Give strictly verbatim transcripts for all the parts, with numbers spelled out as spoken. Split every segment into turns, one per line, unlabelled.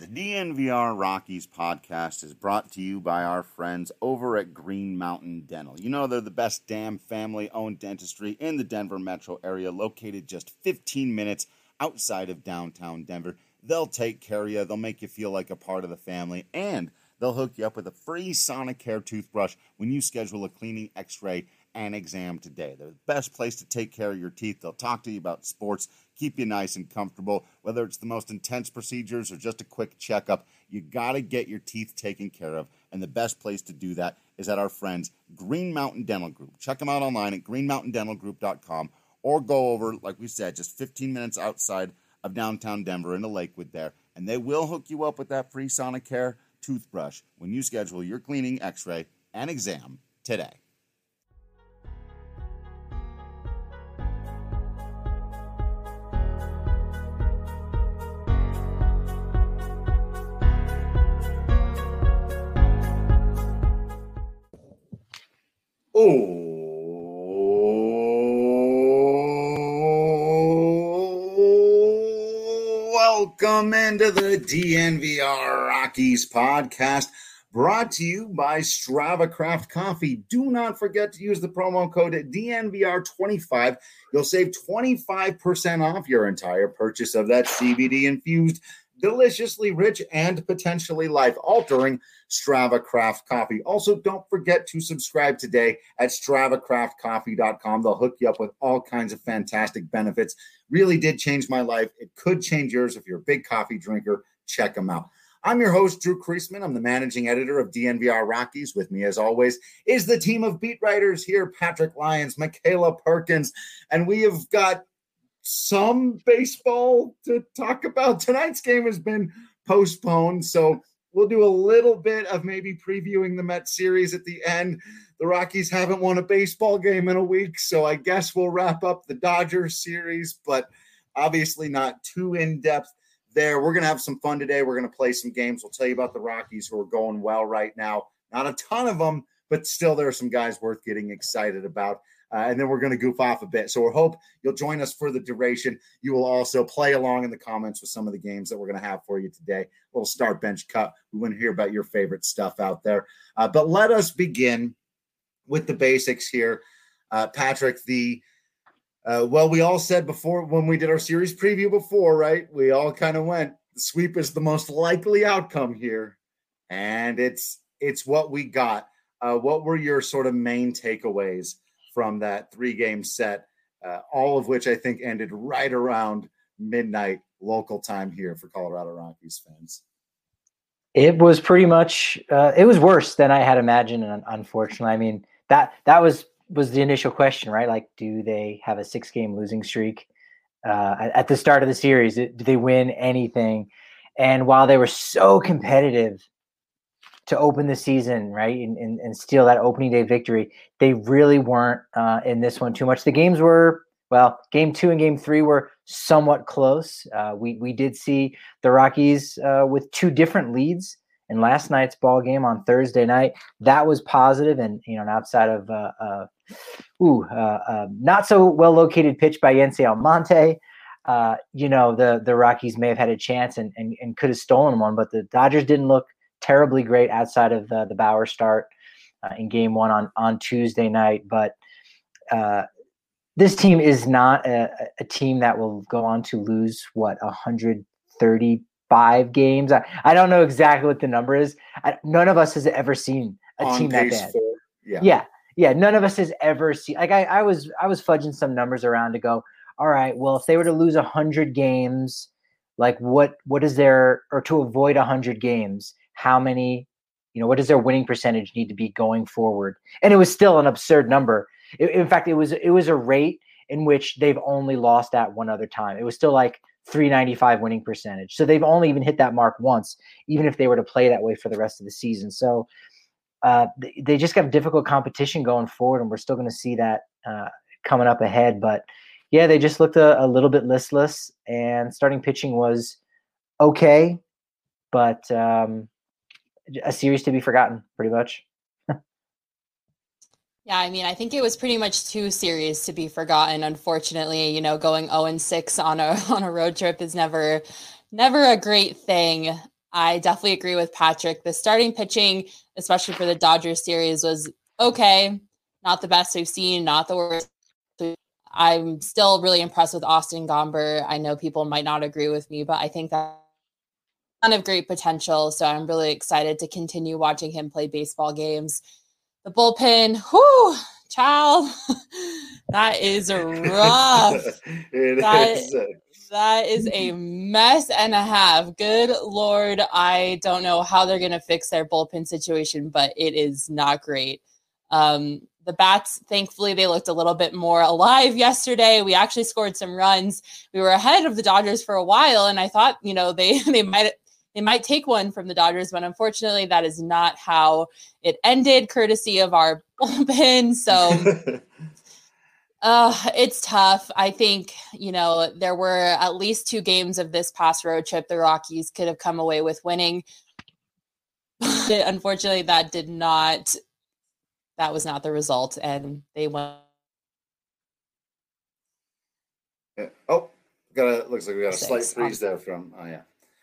The D N V R Rockies podcast is brought to you by our friends over at Green Mountain Dental. You know, they're the best damn family-owned dentistry in the Denver metro area, located just fifteen minutes outside of downtown Denver. They'll take care of you. They'll make you feel like a part of the family, and they'll hook you up with a free Sonicare toothbrush when you schedule a cleaning, x-ray, and exam today. They're the best place to take care of your teeth. They'll talk to you about sports, keep you nice and comfortable. Whether it's the most intense procedures or just a quick checkup, you got to get your teeth taken care of. And the best place to do that is at our friends, Green Mountain Dental Group. Check them out online at green mountain dental group dot com or go over, like we said, just fifteen minutes outside of downtown Denver into Lakewood there. And they will hook you up with that free Sonicare toothbrush when you schedule your cleaning, x-ray, and exam today. Oh, welcome into the D N V R Rockies podcast, brought to you by Strava Craft Coffee. Do not forget to use the promo code D N V R twenty-five. You'll save twenty-five percent off your entire purchase of that C B D-infused, deliciously rich, and potentially life-altering Strava Craft Coffee. Also, don't forget to subscribe today at strava craft coffee dot com. They'll hook you up with all kinds of fantastic benefits. Really did change my life. It could change yours if you're a big coffee drinker. Check them out. I'm your host, Drew Kreisman. I'm the managing editor of D N V R Rockies. With me, as always, is the team of beat writers here, Patrick Lyons, Michaela Perkins, and we have got some baseball to talk about. Tonight's game has been postponed, so we'll do a little bit of maybe previewing the Mets series at the end. The Rockies haven't won a baseball game in a week, so I guess we'll wrap up the Dodgers series, but obviously not too in-depth there. We're going to have some fun today. We're going to play some games. We'll tell you about the Rockies who are going well right now. Not a ton of them, but still there are some guys worth getting excited about. Uh, and then we're going to goof off a bit. So we hope you'll join us for the duration. You will also play along in the comments with some of the games that we're going to have for you today. A little start bench cut. We want to hear about your favorite stuff out there. Uh, but let us begin with the basics here. Uh, Patrick, the uh, well, we all said before when we did our series preview before, right? We all kind of went, the sweep is the most likely outcome here. And it's it's what we got. Uh, what were your sort of main takeaways from that three-game set, uh, all of which I think ended right around midnight local time here for Colorado Rockies fans?
It was pretty much uh, – it was worse than I had imagined, unfortunately. I mean, that that was was the initial question, right? Like, do they have a six-game losing streak uh, at, at the start of the series? Do they win anything? And while they were so competitive to open the season, right, and, and, and steal that opening day victory, they really weren't uh, in this one too much. The games were, well, game two and game three were somewhat close. Uh, we we did see the Rockies uh, with two different leads in last night's ball game on Thursday night. That was positive, and you know, outside of uh, uh, ooh, uh, uh, not so well located pitch by Yency Almonte, uh, you know, the the Rockies may have had a chance and and, and could have stolen one, but the Dodgers didn't look terribly great outside of uh, the Bauer start uh, in game one on, on Tuesday night. But uh, this team is not a, a team that will go on to lose, what, one hundred thirty-five games? I, I don't know exactly what the number is. I, none of us has ever seen a
On
team that bad.
Four. Yeah.
yeah. Yeah. None of us has ever seen, like I, I was, I was fudging some numbers around to go, all right, well, if they were to lose one hundred games, like what, what is there, or to avoid one hundred games, how many, you know, what does their winning percentage need to be going forward? And it was still an absurd number. It, in fact, it was it was a rate in which they've only lost at one other time. It was still like three ninety-five winning percentage. So they've only even hit that mark once, even if they were to play that way for the rest of the season. So uh, they, they just got difficult competition going forward, and we're still going to see that uh, coming up ahead. But yeah, they just looked a, a little bit listless, and starting pitching was okay, but um, a series to be forgotten, pretty much.
Yeah, I mean, I think it was pretty much two series to be forgotten. Unfortunately, you know, going oh and six on a on a road trip is never never a great thing. I definitely agree with Patrick. The starting pitching, especially for the Dodgers series, was okay. Not the best we've seen, not the worst. I'm still really impressed with Austin Gomber. I know people might not agree with me, but I think that ton of great potential. So I'm really excited to continue watching him play baseball games. The bullpen, whoo, child, that is rough.
it
that,
is.
that is a mess and a half. Good Lord, I don't know how they're going to fix their bullpen situation, but it is not great. Um, the bats, thankfully, they looked a little bit more alive yesterday. We actually scored some runs. We were ahead of the Dodgers for a while, and I thought, you know, they they might they might take one from the Dodgers, but unfortunately, that is not how it ended, courtesy of our bullpen. So uh, it's tough. I think, you know, there were at least two games of this past road trip the Rockies could have come away with winning. Unfortunately, that did not That was not the result, and they went.
Oh, got a looks like we got a slight freeze there from. Oh yeah,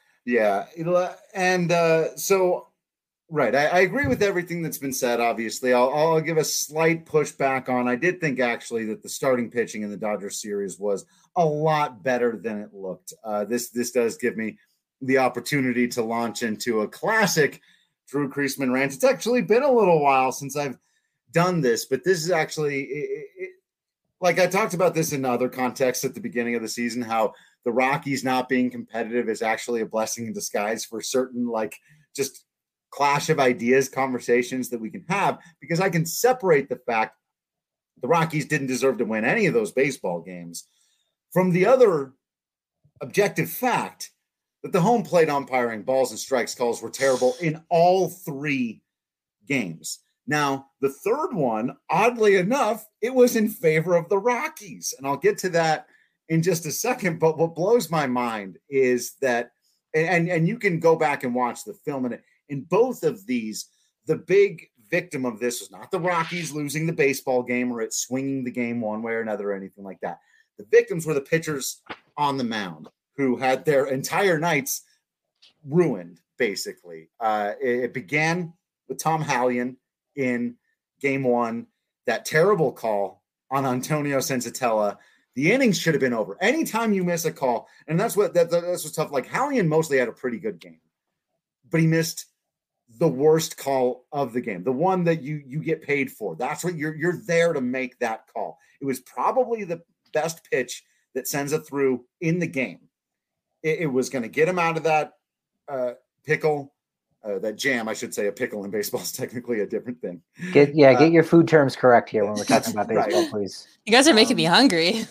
yeah, and uh, so right, I, I agree with everything that's been said. Obviously, I'll, I'll give a slight pushback on. I did think actually that the starting pitching in the Dodgers series was a lot better than it looked. Uh, this this does give me the opportunity to launch into a classic Drew Creasman rant. It's actually been a little while since I've done this, but this is actually it, it, like I talked about this in other contexts at the beginning of the season, how the Rockies not being competitive is actually a blessing in disguise for certain like just clash of ideas conversations that we can have, because I can separate the fact the Rockies didn't deserve to win any of those baseball games from the other objective fact that the home plate umpiring, balls and strikes calls were terrible in all three games. Now, the third one, oddly enough, it was in favor of the Rockies. And I'll get to that in just a second. But what blows my mind is that, and, and you can go back and watch the film, and in both of these, the big victim of this was not the Rockies losing the baseball game or it swinging the game one way or another or anything like that. The victims were the pitchers on the mound who had their entire nights ruined, basically. Uh, it, it began with Tom Hallion in game one, that terrible call on Antonio Senzatella. The innings should have been over. Anytime you miss a call, and that's what that, that's what's tough. Like Hallion mostly had a pretty good game, but he missed the worst call of the game, the one that you you get paid for. That's what you're you're there to make that call. It was probably the best pitch that Senza threw in the game. It, it was going to get him out of that uh, pickle. Uh, that jam, I should say. A pickle in baseball is technically a different thing.
Get yeah,
uh,
get your food terms correct here when we're talking about baseball,
right.
please.
You guys are making
um,
me hungry.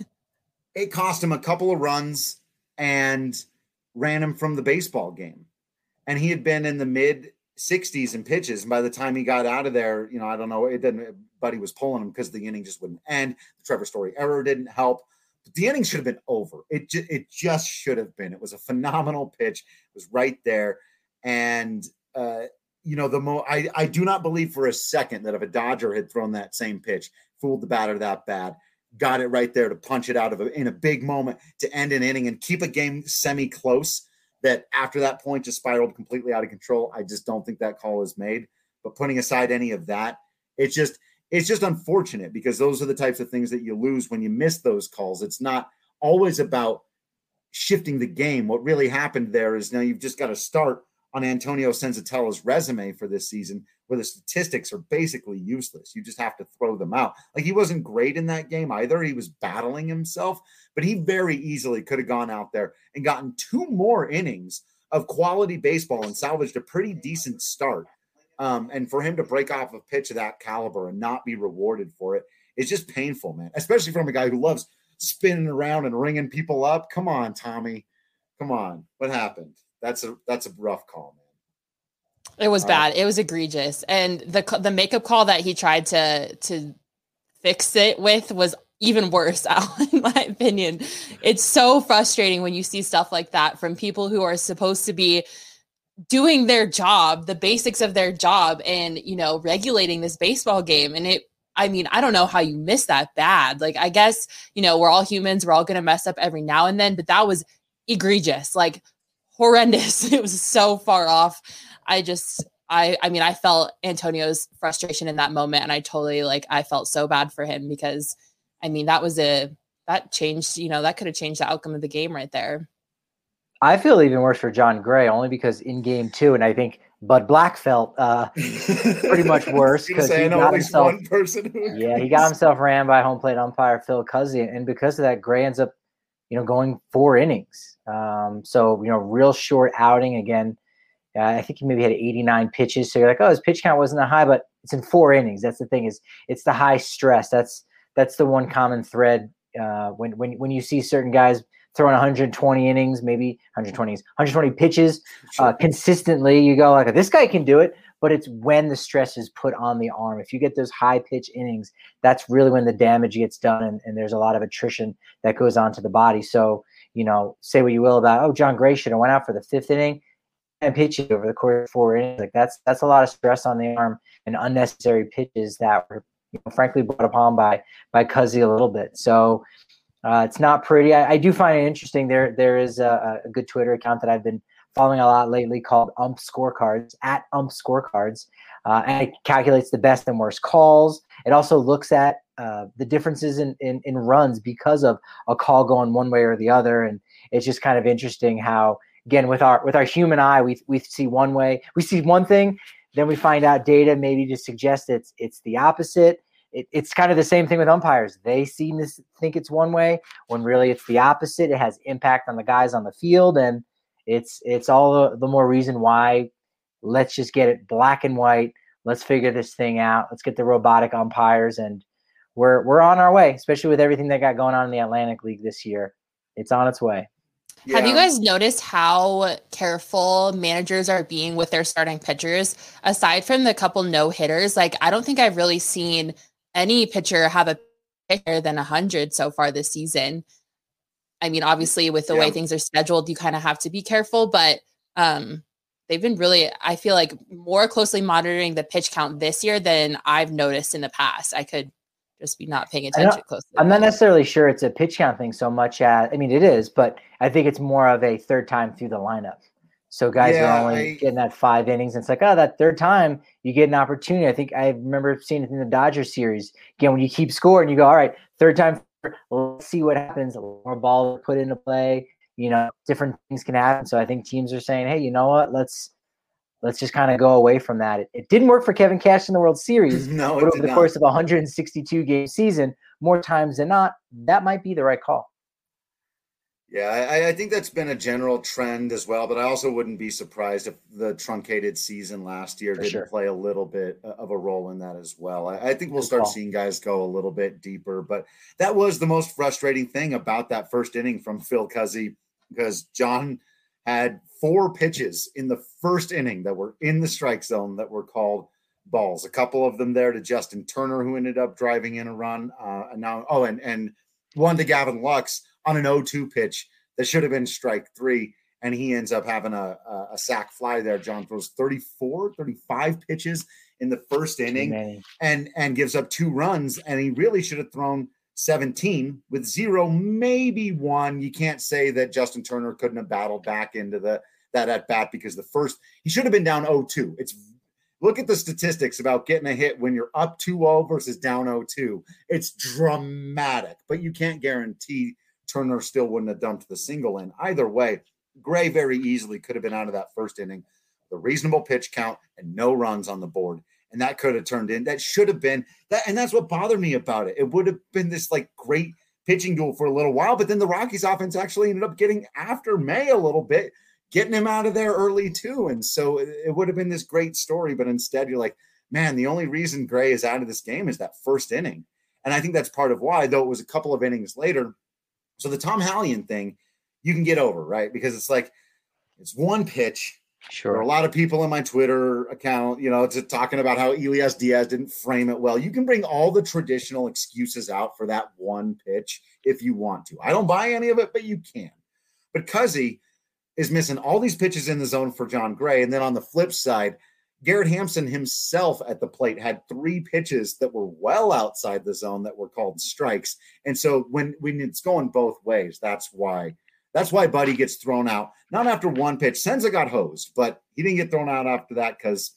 It cost him a couple of runs and ran him from the baseball game. And he had been in the mid sixties in pitches. And by the time he got out of there, you know, I don't know, it didn't. Buddy was pulling him because the inning just wouldn't end. The Trevor Story error didn't help. But the inning should have been over. It ju- it just should have been. It was a phenomenal pitch. It was right there. And, uh, you know, the mo I, I do not believe for a second that if a Dodger had thrown that same pitch, fooled the batter that bad, got it right there to punch it out of a, in a big moment to end an inning and keep a game semi-close, that after that point just spiraled completely out of control. I just don't think that call is made. But putting aside any of that, it's just it's just unfortunate, because those are the types of things that you lose when you miss those calls. It's not always about shifting the game. What really happened there is now you've just got to start on Antonio Senzatella's resume for this season, where the statistics are basically useless. You just have to throw them out. Like, he wasn't great in that game either. He was battling himself, but he very easily could have gone out there and gotten two more innings of quality baseball and salvaged a pretty decent start. Um, and for him to break off a pitch of that caliber and not be rewarded for it is just painful, man, especially from a guy who loves spinning around and ringing people up. Come on, Tommy. Come on. What happened? That's a that's a rough call, man.
It was
All
bad.
right.
It was egregious. And the the makeup call that he tried to to fix it with was even worse, in my opinion. It's so frustrating when you see stuff like that from people who are supposed to be doing their job, the basics of their job, and, you know, regulating this baseball game. And it, I mean, I don't know how you miss that bad. Like, I guess, you know, we're all humans. We're all going to mess up every now and then, but that was egregious, like horrendous. It was so far off. I just, I, I mean, I felt Antonio's frustration in that moment, and I totally like, I felt so bad for him because, I mean, that was a, that changed, you know, that could have changed the outcome of the game right there.
I feel even worse for Jon Gray, only because in game two, and I think Bud Black felt uh, pretty much worse because he got himself. One person who yeah, he got himself ran by home plate umpire Phil Cuzzy, and because of that, Gray ends up, you know, going four innings. Um, so you know, real short outing again. Uh, I think he maybe had eighty-nine pitches. So you're like, oh, his pitch count wasn't that high, but it's in four innings. That's the thing is, it's the high stress. That's that's the one common thread uh, when when when you see certain guys throwing one hundred twenty innings, maybe one hundred twenty, one hundred twenty pitches uh, consistently. You go like, this guy can do it, but it's when the stress is put on the arm. If you get those high pitch innings, that's really when the damage gets done, and, and there's a lot of attrition that goes on to the body. So, you know, say what you will about, oh, Jon Gray should have went out for the fifth inning and pitches over the course of four innings. Like that's that's a lot of stress on the arm and unnecessary pitches that were, you know, frankly brought upon by by Cuzzy a little bit. So. Uh, it's not pretty. I, I do find it interesting. There, there is a, a good Twitter account that I've been following a lot lately called Ump Scorecards, at Ump Scorecards, uh, and it calculates the best and worst calls. It also looks at uh, the differences in, in in runs because of a call going one way or the other, and it's just kind of interesting how, again, with our with our human eye, we we see one way, we see one thing, then we find out data maybe to suggest it's it's the opposite. It, it's kind of the same thing with umpires. They seem to think it's one way when really it's the opposite. It has impact on the guys on the field, and it's it's all the, the more reason why let's just get it black and white. Let's figure this thing out. Let's get the robotic umpires, and we're we're on our way, especially with everything that got going on in the Atlantic League this year. It's on its way.
Yeah. Have you guys noticed how careful managers are being with their starting pitchers? Aside from the couple no-hitters, like I don't think I've really seen any pitcher have a pitcher than one hundred so far this season. I mean, obviously, with the yeah. way things are scheduled, you kind of have to be careful, but um, they've been really, I feel like, more closely monitoring the pitch count this year than I've noticed in the past. I could just be not paying attention closely.
I'm not necessarily sure it's a pitch count thing so much as, I mean, it is, but I think it's more of a third time through the lineup. So guys yeah, are only I, getting that five innings. And it's like, oh, that third time you get an opportunity. I think I remember seeing it in the Dodgers series. Again, when you keep scoring, you go, all right, third time, let's see what happens. A little more ball put into play. You know, different things can happen. So I think teams are saying, hey, you know what? Let's let's just kind of go away from that. It, it didn't work for Kevin Cash in the World Series.
no,
but over the
not.
course of a one hundred sixty-two game season, more times than not, that might be the right call.
Yeah, I, I think that's been a general trend as well, but I also wouldn't be surprised if the truncated season last year
For
didn't
sure.
play a little bit of a role in that as well. I, I think we'll start seeing guys go a little bit deeper, but that was the most frustrating thing about that first inning from Phil Cuzzy, because John had four pitches in the first inning that were in the strike zone that were called balls. A couple of them there to Justin Turner, who ended up driving in a run. Uh, and now, oh, and, and one to Gavin Lux on an oh two pitch that should have been strike three, and he ends up having a, a, a sac fly there. John throws thirty-four, thirty-five pitches in the first inning and, and gives up two runs, and he really should have thrown seventeen with zero, maybe one. You can't say that Justin Turner couldn't have battled back into the that at bat, because the first, he should have been down oh two. It's Look at the statistics about getting a hit when you're up two oh versus down oh two. It's dramatic, but you can't guarantee Turner still wouldn't have dumped the single in. Either way, Gray very easily could have been out of that first inning, the reasonable pitch count and no runs on the board. And that could have turned in. That should have been that. And that's what bothered me about it. It would have been this like great pitching duel for a little while, but then the Rockies offense actually ended up getting after May a little bit, getting him out of there early too. And so it, it would have been this great story, but instead you're like, man, the only reason Gray is out of this game is that first inning. And I think that's part of why, though it was a couple of innings later. So the Tom Hallion thing, you can get over, right? Because it's like, it's one pitch.
Sure.
There are a lot of people in my Twitter account, you know, to talking about how Elias Diaz didn't frame it well. You can bring all the traditional excuses out for that one pitch if you want to. I don't buy any of it, but you can. But Cuzzy is missing all these pitches in the zone for Jon Gray. And then on the flip side, Garrett Hampson himself at the plate had three pitches that were well outside the zone that were called strikes. And so when, when it's going both ways, that's why That's why Buddy gets thrown out. Not after one pitch. Senza got hosed, but he didn't get thrown out after that because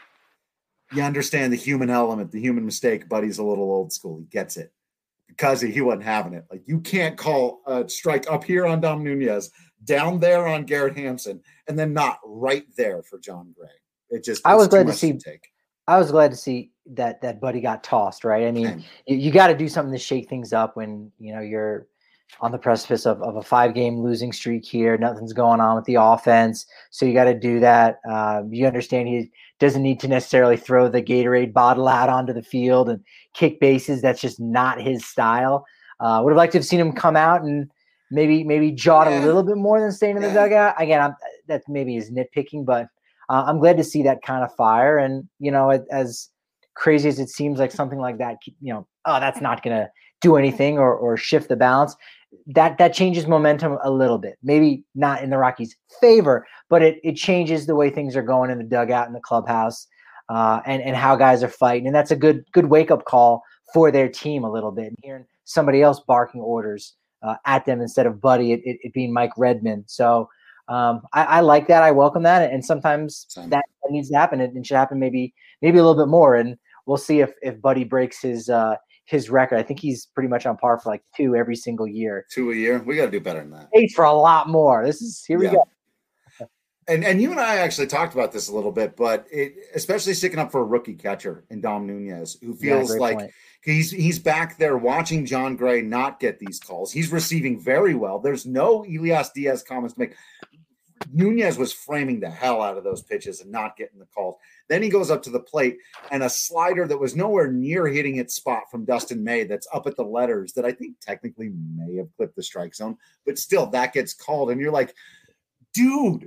you understand the human element, the human mistake. Buddy's a little old school. He gets it because he wasn't having it. Like, you can't call a strike up here on Dom Nunez, down there on Garrett Hampson, and then not right there for Jon Gray. It just
I was glad to see.
To take.
I was glad to see that that Buddy got tossed. Right. I mean,
Same.
you, you got to do something to shake things up when you know you're on the precipice of, of a five game losing streak here. Nothing's going on with the offense. So you got to do that. Um, you understand he doesn't need to necessarily throw the Gatorade bottle out onto the field and kick bases. That's just not his style. Uh, would have liked to have seen him come out and maybe, maybe jawed yeah. a little bit more than staying in the
yeah.
dugout. Again, I'm, that maybe is nitpicking, but uh, I'm glad to see that kind of fire. And, you know, as crazy as it seems like something like that, you know, oh, that's not going to do anything or, or shift the balance. That that changes momentum a little bit. Maybe not in the Rockies' favor, but it it changes the way things are going in the dugout, in the clubhouse, uh, and and how guys are fighting. And that's a good good wake up call for their team a little bit. And hearing somebody else barking orders uh, at them instead of Buddy, it, it, it being Mike Redmond. So um, I, I like that. I welcome that. And sometimes that, that needs to happen. It, it should happen maybe maybe a little bit more. And we'll see if if Buddy breaks his. Uh, his record. I think he's pretty much on par for like two every single year.
Two a year. We got to do better than that.
Eight for a lot more. This is here we yeah.
go. And and you and I actually talked about this a little bit, but it, especially sticking up for a rookie catcher in Dom Nunez, who feels yeah, like point. he's he's back there watching Jon Gray not get these calls. He's receiving very well. There's no Elias Diaz comments to make. Nunez was framing the hell out of those pitches and not getting the calls. Then he goes up to the plate and a slider that was nowhere near hitting its spot from Dustin May that's up at the letters that I think technically may have clipped the strike zone, but still that gets called. And you're like, dude,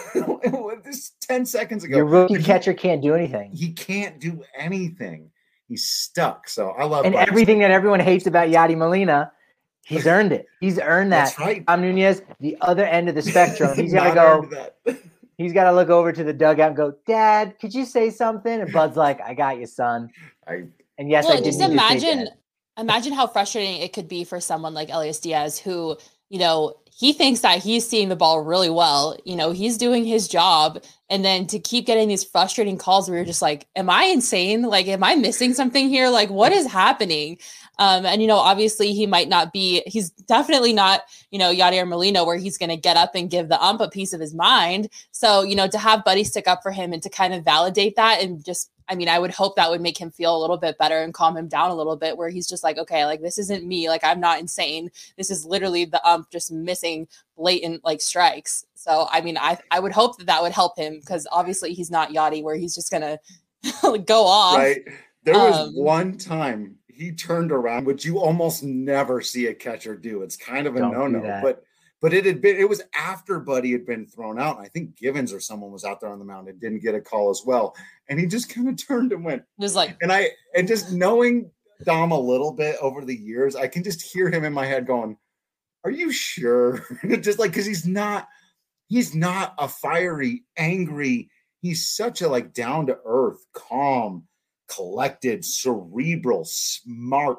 this ten seconds ago.
Your rookie
he,
catcher can't do anything.
He can't do anything. He's stuck. So I love
And everything that everyone hates about Yadi Molina, he's earned it. He's earned that.
That's right.
Dom Nunez, the other end of the spectrum. He's got to go. He's got to look over to the dugout and go, Dad, could you say something? And Bud's like, I got you, son.
I,
and yes,
well,
I did.
Just imagine, imagine how frustrating it could be for someone like Elias Diaz, who, you know, he thinks that he's seeing the ball really well. You know, he's doing his job. And then to keep getting these frustrating calls where you're just like, am I insane? Like, am I missing something here? Like, what is happening? Um, and, you know, obviously he might not be, he's definitely not, you know, Yadier Molina, where he's going to get up and give the ump a piece of his mind. So, you know, to have Buddy stick up for him and to kind of validate that and just, I mean, I would hope that would make him feel a little bit better and calm him down a little bit, where he's just like, okay, like, this isn't me. Like, I'm not insane. This is literally the ump just missing blatant like strikes. So, I mean, I, I would hope that that would help him, because obviously he's not Yachty where he's just going to go off.
Right. There was
um,
one time he turned around, which you almost never see a catcher do. It's kind of a no-no, but but it had been, it was after Buddy had been thrown out. And I think Givens or someone was out there on the mound and didn't get a call as well. And he just kind of turned and went.
It was like,
and I, and just knowing Dom a little bit over the years, I can just hear him in my head going, are you sure? Just like, cause he's not, he's not a fiery, angry. He's such a like down to earth, calm, collected, cerebral, smart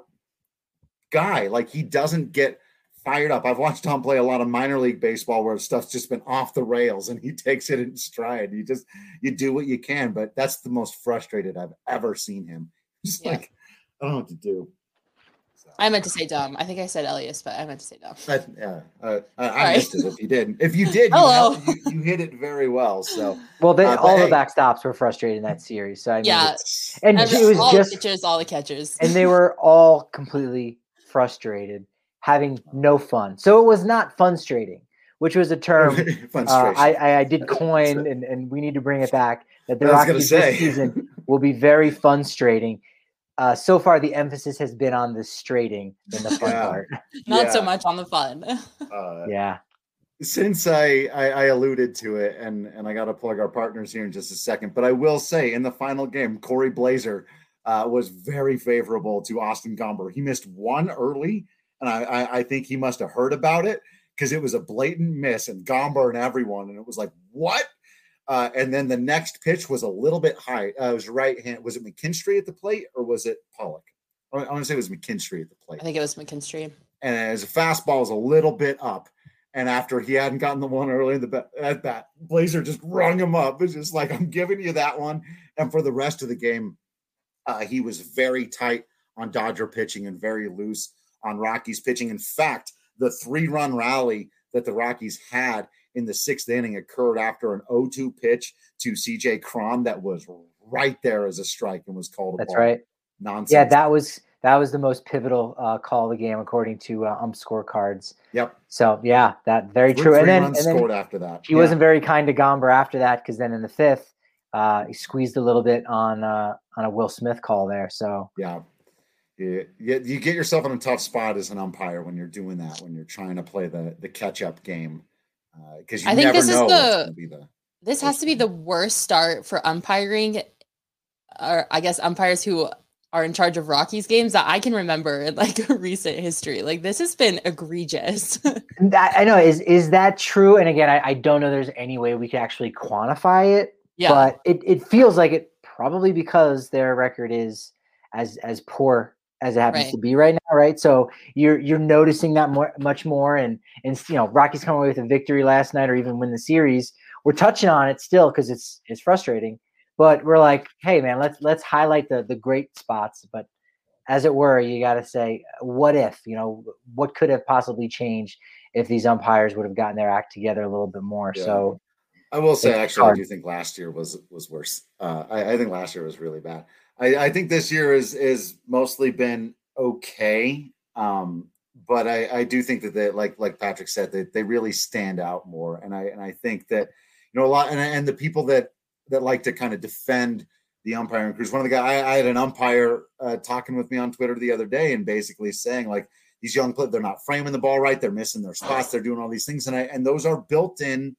guy. Like, he doesn't get fired up. I've watched Tom play a lot of minor league baseball where stuff's just been off the rails and he takes it in stride. You just, you do what you can, but that's the most frustrated I've ever seen him. Just yeah. like, I don't know what to do. So.
I meant to say Dom. I think I said Elias, but I meant to say Dom.
I, yeah, uh, I, I missed it if you did. If you did, you,
Hello.
held, you, you hit it very well. So,
well, they,
uh,
all
hey.
the backstops were frustrated in that series. So I mean,
yeah,
and
Every,
it was
all
just
the pitchers, all the catchers,
and they were all completely frustrated, having no fun. So it was not funstrating, which was a term uh, I, I, I did coin, and, and we need to bring it back. That the Rockies this season will be very funstrating. Uh, so far, the emphasis has been on the straighting than the fun
yeah.
part.
Not
yeah.
so much on the fun.
uh,
yeah.
Since I, I I alluded to it, and and I got to plug our partners here in just a second, but I will say in the final game, Corey Blazer uh, was very favorable to Austin Gomber. He missed one early, and I I, I think he must have heard about it because it was a blatant miss, and Gomber and everyone, and it was like, what? Uh, and then the next pitch was a little bit high. Uh, it was right hand. Was it McKinstry at the plate or was it Pollock? I want to say it was McKinstry at the plate.
I think it was McKinstry.
And as a fastball is a little bit up. And after he hadn't gotten the one early in the bat, at bat, Blazer just rung him up. It's just like, I'm giving you that one. And for the rest of the game, uh, he was very tight on Dodger pitching and very loose on Rockies pitching. In fact, the three-run rally that the Rockies had in the sixth inning occurred after an oh two pitch to C J Cron that was right there as a strike and was called a
That's
ball.
right.
Nonsense.
Yeah, that was that was the most pivotal uh, call of the game according to uh, ump scorecards.
Yep.
So yeah, that very
Three,
true.
three
and then,
runs
and then
scored after that.
He
yeah.
wasn't very kind to Gomber after that because then in the fifth, uh, he squeezed a little bit on uh, on a Will Smith call there. So
yeah. You, you get yourself in a tough spot as an umpire when you're doing that, when you're trying to play the, the catch-up game. Because uh, you
I think
never
this
know
is
what's
the,
going to be the
this has to be the worst start for umpiring, or I guess umpires who are in charge of Rockies games that I can remember in like recent history. Like this has been egregious.
that, I know. Is is that true? And again, I, I don't know there's any way we can actually quantify it.
Yeah.
But it, it feels like it probably because their record is as as poor as it happens
right.
to be right now, right? So you're you're noticing that more, much more, and and you know Rockies come away with a victory last night, or even win the series. We're touching on it still because it's it's frustrating, but we're like, hey man, let's let's highlight the the great spots. But as it were, you got to say, what if? You know, what could have possibly changed if these umpires would have gotten their act together a little bit more?
Yeah.
So
I will say, actually, hard. I do think last year was was worse. Uh, I, I think last year was really bad. I, I think this year is is mostly been okay, um, but I, I do think that they, like like Patrick said, that they, they really stand out more. And I and I think that you know a lot, and, and the people that that like to kind of defend the umpiring crews. One of the guys I, I had an umpire uh, talking with me on Twitter the other day, and basically saying like these young players, they're not framing the ball right, they're missing their spots, they're doing all these things, and I and those are built in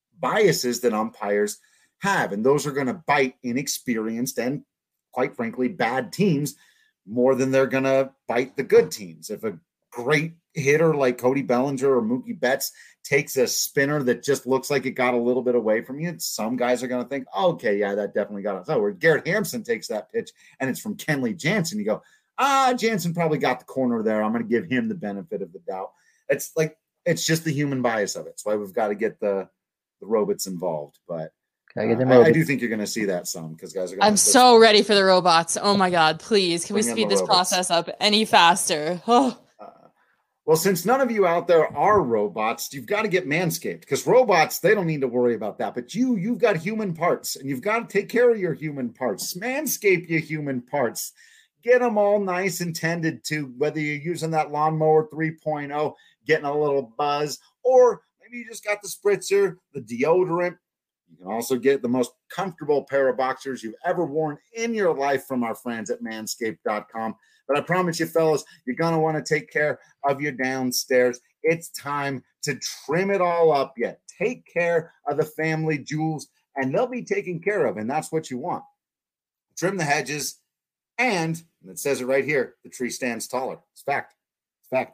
biases that umpires have, and those are going to bite inexperienced and quite frankly bad teams more than they're going to bite the good teams. If a great hitter like Cody Bellinger or Mookie Betts takes a spinner that just looks like it got a little bit away from you, some guys are going to think, oh, okay, yeah, that definitely got us. Oh, where Garrett Hampson takes that pitch and it's from Kenley Jansen, you go, ah, Jansen probably got the corner there, I'm going to give him the benefit of the doubt. It's like it's just the human bias of it. That's why we've got to get the the robots involved, but uh, I, I do think you're going to see that some because guys are going
I'm so ready for the robots. Oh my God, please. Can we speed this robots. process up any faster? Oh.
Uh, well, since none of you out there are robots, you've got to get Manscaped because robots, they don't need to worry about that. But you, you've got human parts and you've got to take care of your human parts. Manscape your human parts. Get them all nice and tended to, whether you're using that lawnmower three point oh, getting a little buzz, or maybe you just got the spritzer, the deodorant. You can also get the most comfortable pair of boxers you've ever worn in your life from our friends at manscaped dot com. But I promise you, fellas, you're going to want to take care of your downstairs. It's time to trim it all up yet. Take care of the family jewels, and they'll be taken care of, and that's what you want. Trim the hedges, and, and it says it right here, the tree stands taller. It's fact. It's fact.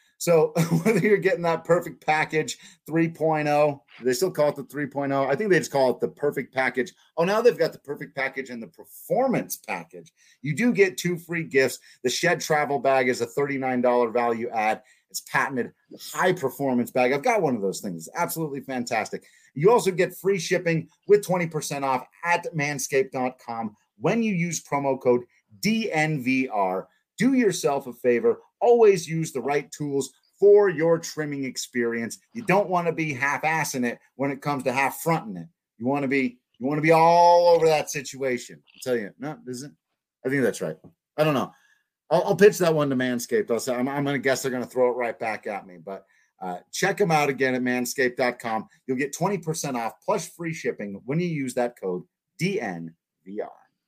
So whether you're getting that perfect package three point oh, they still call it the three point oh. I think they just call it the perfect package. Oh, now they've got the perfect package and the performance package. You do get two free gifts. The Shed Travel Bag is a thirty-nine dollars value add. It's patented high performance bag. I've got one of those things. It's absolutely fantastic. You also get free shipping with twenty percent off at manscaped dot com when you use promo code D N V R. Do yourself a favor. Always use the right tools for your trimming experience. You don't want to be half-assing it when it comes to half-fronting it. You want to be you want to be all over that situation. I'll tell you, no, isn't. I think that's right. I don't know. I'll, I'll pitch that one to Manscaped. I'll say I'm, I'm going to guess they're going to throw it right back at me. But uh, check them out again at manscaped dot com. You'll get twenty percent off plus free shipping when you use that code D N V R.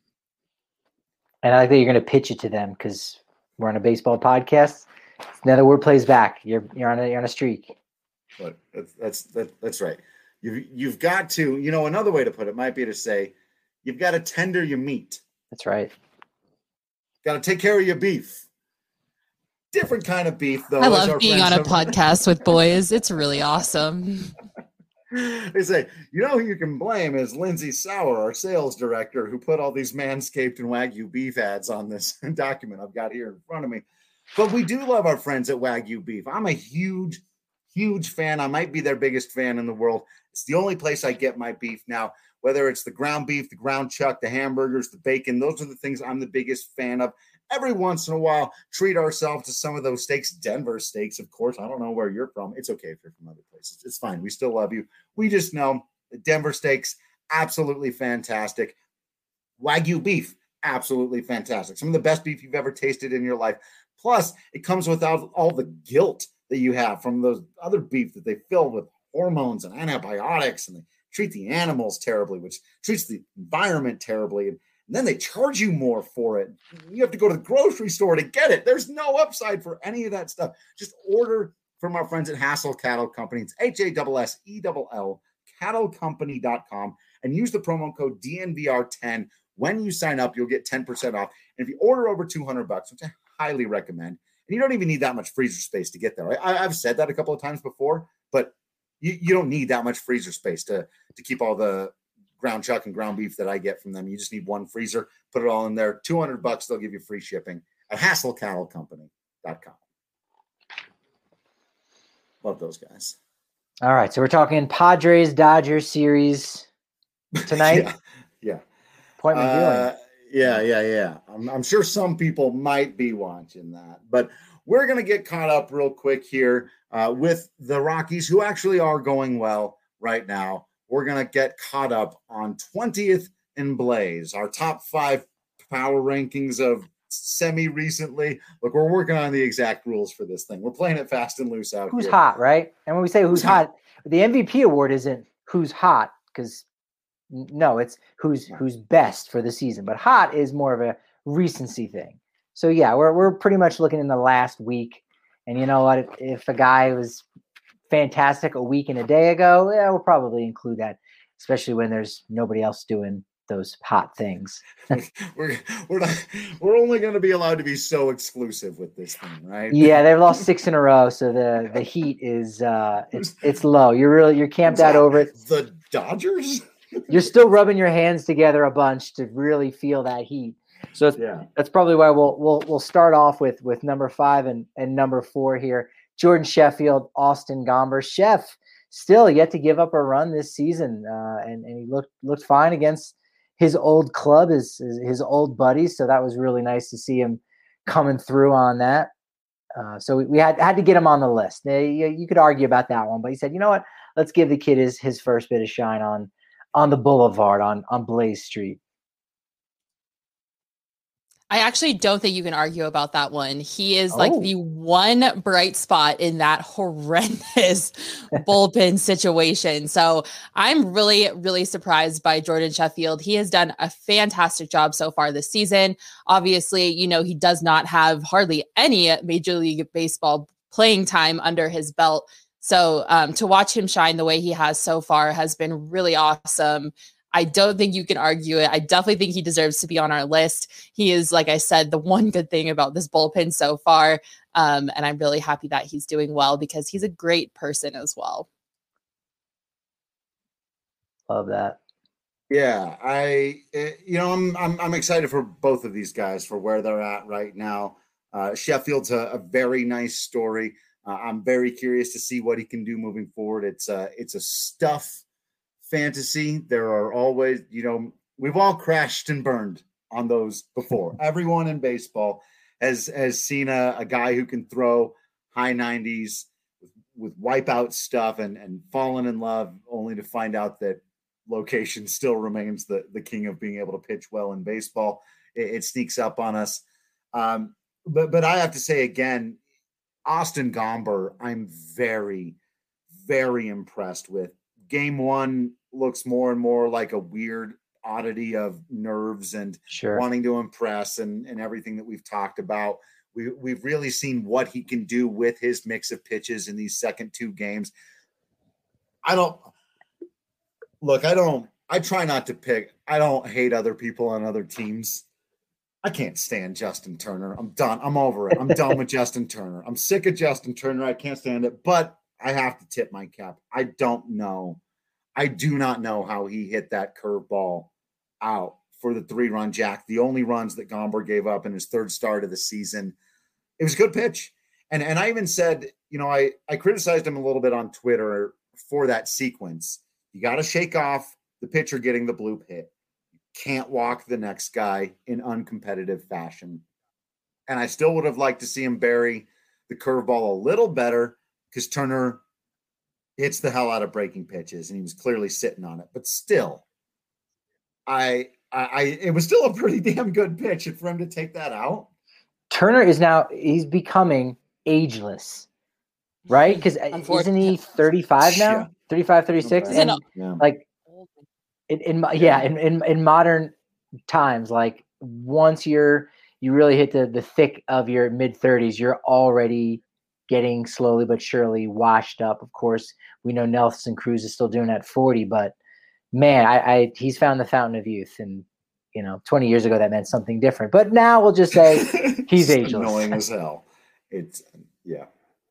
And I like that you're going to pitch it to them because we're on a baseball podcast. Now the word plays back. You're you're on a you're on a streak.
But that's that's that, that's right. You've you've got to, you know, another way to put it might be to say you've got to tender your meat.
That's right.
Got to take care of your beef. Different kind of beef, though.
I love being on a have. podcast with boys. It's really awesome.
They say, you know who you can blame is Lindsay Sauer, our sales director, who put all these Manscaped and Wagyu beef ads on this document I've got here in front of me. But we do love our friends at Wagyu Beef. I'm a huge, Huge fan. I might be their biggest fan in the world. It's the only place I get my beef now, whether it's the ground beef, the ground chuck, the hamburgers, the bacon. Those are the things I'm the biggest fan of. Every once in a while, treat ourselves to some of those steaks. Denver steaks, of course. I don't know where you're from. It's okay if you're from other places. It's fine. We still love you. We just know Denver steaks, absolutely fantastic. Wagyu beef, absolutely fantastic. Some of the best beef you've ever tasted in your life. Plus, it comes without all the guilt that you have from those other beef that they fill with hormones and antibiotics, and they treat the animals terribly, which treats the environment terribly. And, and then they charge you more for it. You have to go to the grocery store to get it. There's no upside for any of that stuff. Just order from our friends at Hassel Cattle Company. It's H A S S E L L, cattle company dot com, and use the promo code D N V R ten. When you sign up, you'll get ten percent off. And if you order over two hundred bucks, which I highly recommend, and you don't even need that much freezer space to get there. I, I've said that a couple of times before, but you, you don't need that much freezer space to, to keep all the ground chuck and ground beef that I get from them. You just need one freezer, put it all in there. two hundred bucks, they'll give you free shipping at Hassel Cattle Company dot com. Love those guys.
All right, so we're talking Padres Dodgers series tonight.
yeah, yeah.
Appointment viewing.
Uh, yeah, yeah, yeah. I'm, I'm sure some people might be watching that, but we're going to get caught up real quick here uh, with the Rockies, who actually are going well right now. We're going to get caught up on twentieth and Blaze, our top five power rankings of semi-recently. Look, we're working on the exact rules for this thing. We're playing it fast and loose out
who's
here.
Who's hot, right? And when we say who's, who's hot, hot, the M V P award isn't who's hot, because no, it's who's who's best for the season. But hot is more of a recency thing. So yeah, we're we're pretty much looking in the last week. And you know what? If, if a guy was fantastic a week and a day ago, yeah, we'll probably include that, especially when there's nobody else doing those hot things.
we're we're not we're only going to be allowed to be so exclusive with this thing, right?
Yeah, they've lost six in a row, so the the heat is uh it's it's low. You're really you're camped out over it.
The Dodgers.
You're still rubbing your hands together a bunch to really feel that heat. So it's, yeah. that's probably why we'll we'll we'll start off with with number five and and number four here. Jordan Sheffield, Austin Gomber. Chef still yet to give up a run this season, uh, and and he looked looked fine against his old club, his his old buddies. So that was really nice to see him coming through on that. Uh, so we, we had had to get him on the list. Now, you, you could argue about that one, but he said, you know what? Let's give the kid his his first bit of shine on. on the boulevard on, on Blaze Street.
I actually don't think you can argue about that one. He is oh. like the one bright spot in that horrendous bullpen situation. So I'm really, really surprised by Jordan Sheffield. He has done a fantastic job so far this season. Obviously, you know, he does not have hardly any Major League Baseball playing time under his belt. So um, to watch him shine the way he has so far has been really awesome. I don't think you can argue it. I definitely think he deserves to be on our list. He is, like I said, the one good thing about this bullpen so far. Um, and I'm really happy that he's doing well because he's a great person as well.
Love that.
Yeah, I, you know, I'm, I'm, I'm excited for both of these guys for where they're at right now. Uh, Sheffield's a, a very nice story. Uh, I'm very curious to see what he can do moving forward. It's a, it's a stuff fantasy. There are always, you know, we've all crashed and burned on those before. Everyone in baseball has has seen a, a guy who can throw high nineties with, with wipeout stuff and and fallen in love, only to find out that location still remains the the king of being able to pitch well in baseball. It, it sneaks up on us. Um, but but I have to say again, Austin Gomber, I'm very, very impressed with. Game one looks more and more like a weird oddity of nerves and
sure.
wanting to impress and, and everything that we've talked about. We, we've really seen what he can do with his mix of pitches in these second two games. I don't – look, I don't – I try not to pick – I don't hate other people on other teams. I can't stand Justin Turner. I'm done. I'm over it. I'm done with Justin Turner. I'm sick of Justin Turner. I can't stand it. But I have to tip my cap. I don't know. I do not know how he hit that curveball out for the three-run jack. The only runs that Gomber gave up in his third start of the season. It was a good pitch. And and I even said, you know, I, I criticized him a little bit on Twitter for that sequence. You got to shake off the pitcher getting the bloop hit. You can't walk the next guy in uncompetitive fashion. And I still would have liked to see him bury the curveball a little better because Turner hits the hell out of breaking pitches and he was clearly sitting on it. But still, I, I, I it was still a pretty damn good pitch for him to take that out.
Turner is now, he's becoming ageless, right? Because isn't he thirty-five now? Yeah. thirty-five, thirty-six?
Okay.
And
yeah.
like, in, in yeah, in, in, in modern times, like once you're, you really hit the, the thick of your mid thirties, you're already getting slowly but surely washed up. Of course, we know Nelson Cruz is still doing that at forty, but man, I, I he's found the fountain of youth. And, you know, twenty years ago, that meant something different. But now we'll just say he's ageless.
Annoying as hell. It's, yeah.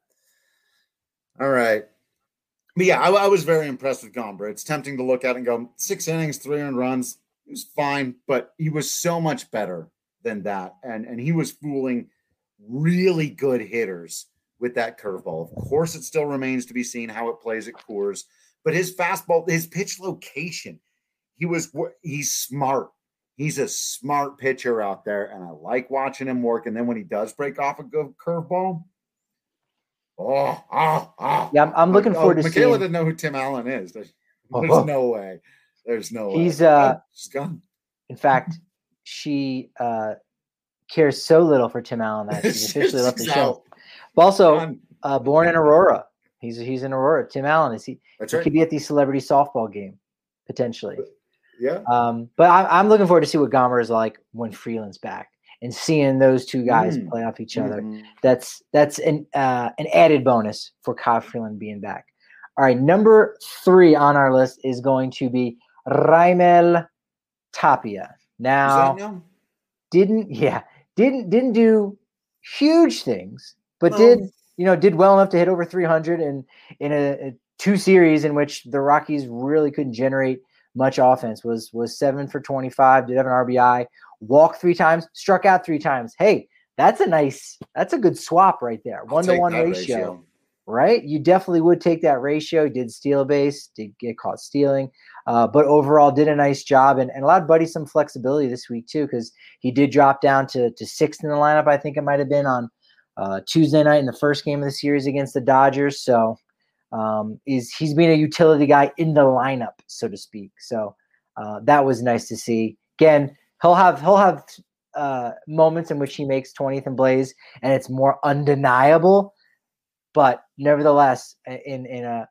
All right. But yeah, I, I was very impressed with Gomber. It's tempting to look at and go, six innings, three earned runs. He was fine, but he was so much better than that. And, and he was fooling really good hitters with that curveball. Of course, it still remains to be seen how it plays at Coors, but his fastball, his pitch location, he was, he's smart. He's a smart pitcher out there, and I like watching him work. And then when he does break off a good curveball, oh, oh, oh.
Yeah, I'm, I'm looking
oh,
forward to
Michaela
seeing.
Michaela didn't know who Tim Allen is. There's, there's oh. no way. There's no way.
He's uh,
She's gone.
In fact, she uh, cares so little for Tim Allen that she's officially left the show. But also, uh, born in Aurora. He's he's in Aurora. Tim Allen is he?
That's
he
right.
Could be at the celebrity softball game potentially.
Yeah.
Um, but I, I'm looking forward to see what Gomber is like when Freeland's back and seeing those two guys mm. play off each other.
Mm.
That's that's an uh, an added bonus for Kyle Freeland being back. All right, number three on our list is going to be Raimel Tapia. Now, didn't yeah didn't didn't do huge things, but no. did you know did well enough to hit over three hundred in in a, a two series in which the Rockies really couldn't generate much offense. Was was seven for twenty-five, did have an R B I, walked three times, struck out three times. Hey, that's a nice, that's a good swap right there. One to one ratio, ratio, right? You definitely would take that ratio. Did steal a base, did get caught stealing, uh, but overall did a nice job and, and allowed Buddy some flexibility this week too, because he did drop down to, to sixth in the lineup. I think it might have been on uh, Tuesday night in the first game of the series against the Dodgers. So Um, is he's been a utility guy in the lineup, so to speak. So uh, that was nice to see. Again, he'll have he'll have uh, moments in which he makes twentieth and Blaze, and it's more undeniable. But nevertheless, in in a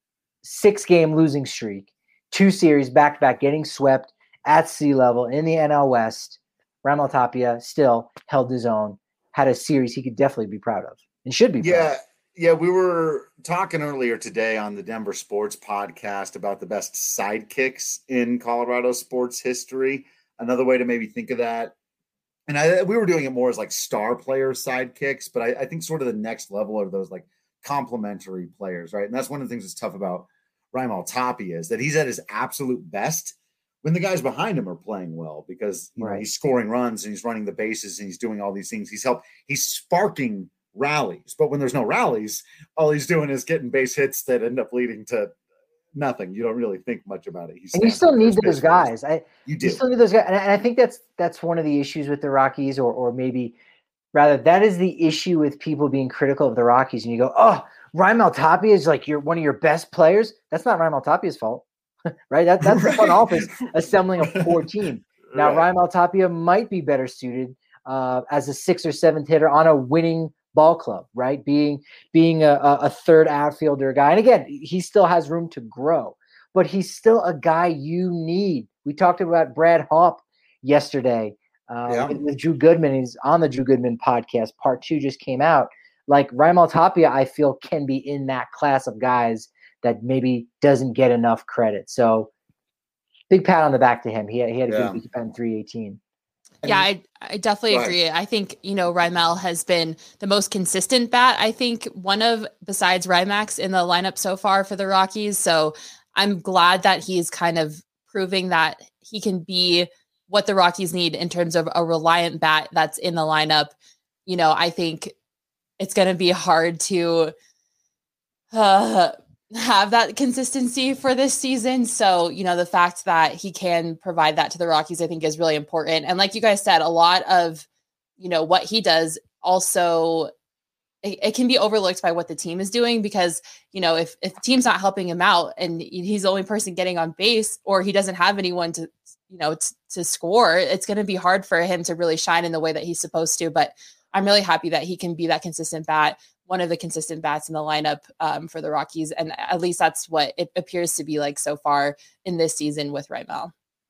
six game losing streak, two series back to back, getting swept at sea level in the N L West, Raimel Tapia still held his own. Had a series he could definitely be proud of and should be.
Yeah.
Proud of.
Yeah, we were talking earlier today on the Denver Sports Podcast about the best sidekicks in Colorado sports history. Another way to maybe think of that, and I, we were doing it more as like star player sidekicks, but I, I think sort of the next level are those like complementary players, right? And that's one of the things that's tough about Raimel Tapia is that he's at his absolute best when the guys behind him are playing well because you
right.
know, he's scoring runs and he's running the bases and he's doing all these things. He's help. He's sparking rallies, but when there's no rallies, all he's doing is getting base hits that end up leading to nothing. You don't really think much about it.
He's and you still need those guys. I,
you do.
You still need those guys, and I think that's that's one of the issues with the Rockies, or or maybe rather that is the issue with people being critical of the Rockies. And you go, "Oh, Raimel Tapia is like you're one of your best players." That's not Raimel Tapia's fault, right? That, that's right. the front office assembling a poor team. Now, right. Raimel Tapia might be better suited uh, as a sixth or seventh hitter on a winning ball club, right? Being being a, a third outfielder guy. And again, he still has room to grow, but he's still a guy you need. We talked about Brad Hawpe yesterday uh, yeah. with, with Drew Goodman. He's on the Drew Goodman podcast. Part two just came out. Like Raimel Tapia, I feel can be in that class of guys that maybe doesn't get enough credit. So big pat on the back to him. He had, he had a yeah. good week at three eighteen.
Yeah, I, I definitely agree. I think, you know, Raimel has been the most consistent bat. I think one of, besides Rymax in the lineup so far for the Rockies. So I'm glad that he's kind of proving that he can be what the Rockies need in terms of a reliant bat that's in the lineup. You know, I think it's going to be hard to uh, have that consistency for this season. So, you know, the fact that he can provide that to the Rockies, I think is really important. And like you guys said, a lot of, you know, what he does also, it, it can be overlooked by what the team is doing because, you know, if, if the team's not helping him out and he's the only person getting on base or he doesn't have anyone to, you know, t- to score, it's going to be hard for him to really shine in the way that he's supposed to. But I'm really happy that he can be that consistent bat, one of the consistent bats in the lineup um, for the Rockies. And at least that's what it appears to be like so far in this season with Raimel.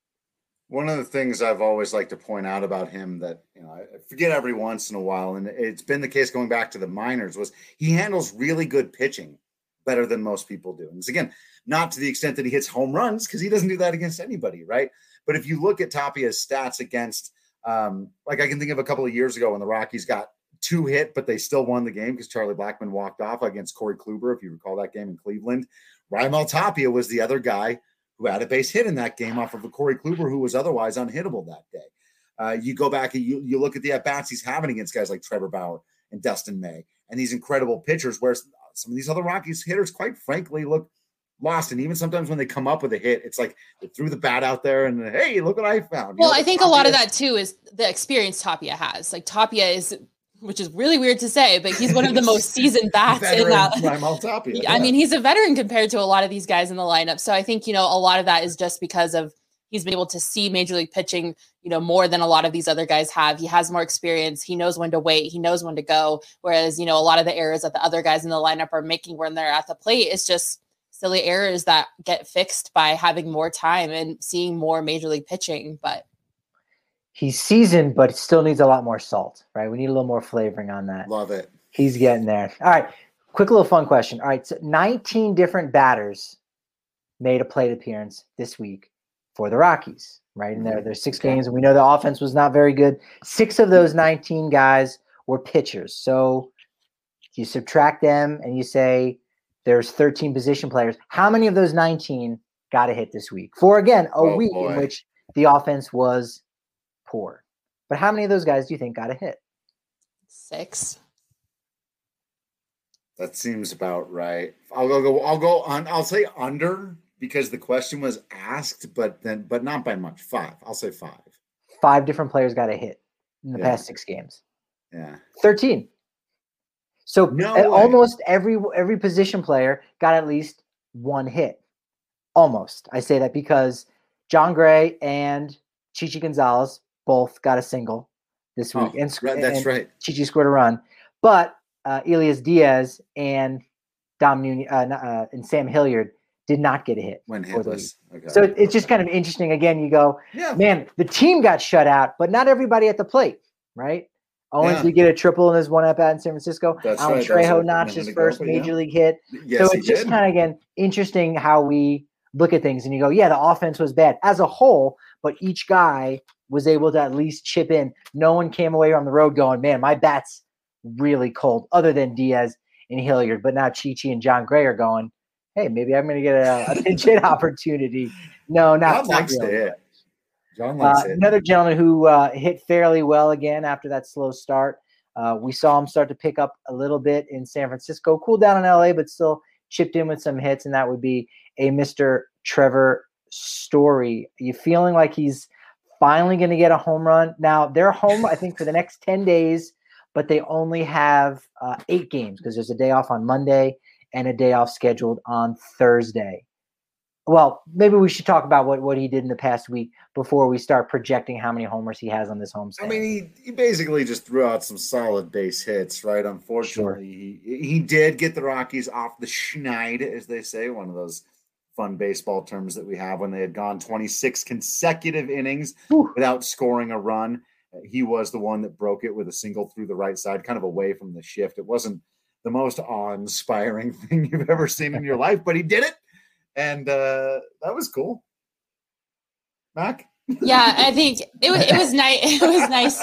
One of the things I've always liked to point out about him that, you know, I forget every once in a while, and it's been the case going back to the minors, was he handles really good pitching better than most people do. And it's, again, not to the extent that he hits home runs because he doesn't do that against anybody, right? But if you look at Tapia's stats against, um, like I can think of a couple of years ago when the Rockies got two hit, but they still won the game because Charlie Blackmon walked off against Corey Kluber, if you recall that game in Cleveland. Raimel Tapia was the other guy who had a base hit in that game off of a Corey Kluber who was otherwise unhittable that day. Uh, you go back and you, you look at the at-bats he's having against guys like Trevor Bauer and Dustin May and these incredible pitchers where some of these other Rockies hitters, quite frankly, look lost. And even sometimes when they come up with a hit, it's like they threw the bat out there and, hey, look what I found.
Well,
you know,
I think
Tapia,
a lot of that, too, is the experience Tapia has. Like, Tapia is, which is really weird to say, but he's one of the most seasoned bats in that.
Raimel Tapia, yeah.
I mean, he's a veteran compared to a lot of these guys in the lineup. So I think, you know, a lot of that is just because of he's been able to see Major League pitching, you know, more than a lot of these other guys have. He has more experience. He knows when to wait. He knows when to go. Whereas, you know, a lot of the errors that the other guys in the lineup are making when they're at the plate is just silly errors that get fixed by having more time and seeing more Major League pitching. But
he's seasoned, but still needs a lot more salt, right? We need a little more flavoring on that.
Love it.
He's getting there. All right. Quick little fun question. All right. So nineteen different batters made a plate appearance this week for the Rockies, right? And there, there's six games, and we know the offense was not very good. Six of those nineteen guys were pitchers. So you subtract them and you say there's thirteen position players. How many of those nineteen got a hit this week? For, again, a
oh,
week
boy.
in which the offense was poor. But how many of those guys do you think got a hit?
Six.
That seems about right. I'll go, go I'll go on. I'll say under because the question was asked, but then, but not by much. Five. I'll say five.
Five different players got a hit in the
Yeah.
past six games.
Yeah.
thirteen. So
No
uh,
way.
almost every every position player got at least one hit. Almost. I say that because John Gray and Chichi Gonzalez both got a single this week.
Oh,
and,
right, that's
and
right.
Chichi scored a run. But uh, Elias Diaz and Dom Nunez, uh, uh, and Sam Hilliard did not get a hit.
When
for the
hitless.
week.
Okay.
So it, it's just kind of interesting. Again, you go,
Yeah.
man, the team got shut out, but not everybody at the plate, right? Owens
Yeah.
did get a triple in his one at bat in San Francisco.
That's
Alan
right. That was
Trejo
a
notched
minute
his
ago,
first
but
major
yeah.
league hit.
Yes,
so
he
it's just
did.
kind of, again, interesting how we look at things and you go, yeah, the offense was bad as a whole, but each guy was able to at least chip in. No one came away on the road going, man, my bat's really cold, other than Diaz and Hilliard. But now Chichi and John Gray are going, hey, maybe I'm going to get a, a pinch hit opportunity. No, not,
John
not
likes to
really.
hit. John likes
Uh,
it.
another gentleman who uh, hit fairly well again after that slow start. Uh, we saw him start to pick up a little bit in San Francisco, cool down in L A, but still chipped in with some hits, and that would be a Mister Trevor Story. Are you feeling like he's finally going to get a home run? Now, they're home, I think, for the next ten days, but they only have uh, eight games because there's a day off on Monday and a day off scheduled on Thursday. Well, maybe we should talk about what, what he did in the past week before we start projecting how many homers he has on this homestand.
I mean, he, he basically just threw out some solid base hits, right? Unfortunately, he, he did get the Rockies off the schneid, as they say, one of those fun baseball terms that we have when they had gone twenty-six consecutive innings
Whew.
without scoring a run. Uh, he was the one that broke it with a single through the right side, kind of away from the shift. It wasn't the most awe-inspiring thing you've ever seen in your life, but he did it. And uh, that was cool. Mac?
Yeah, I think it was it was nice. It was nice.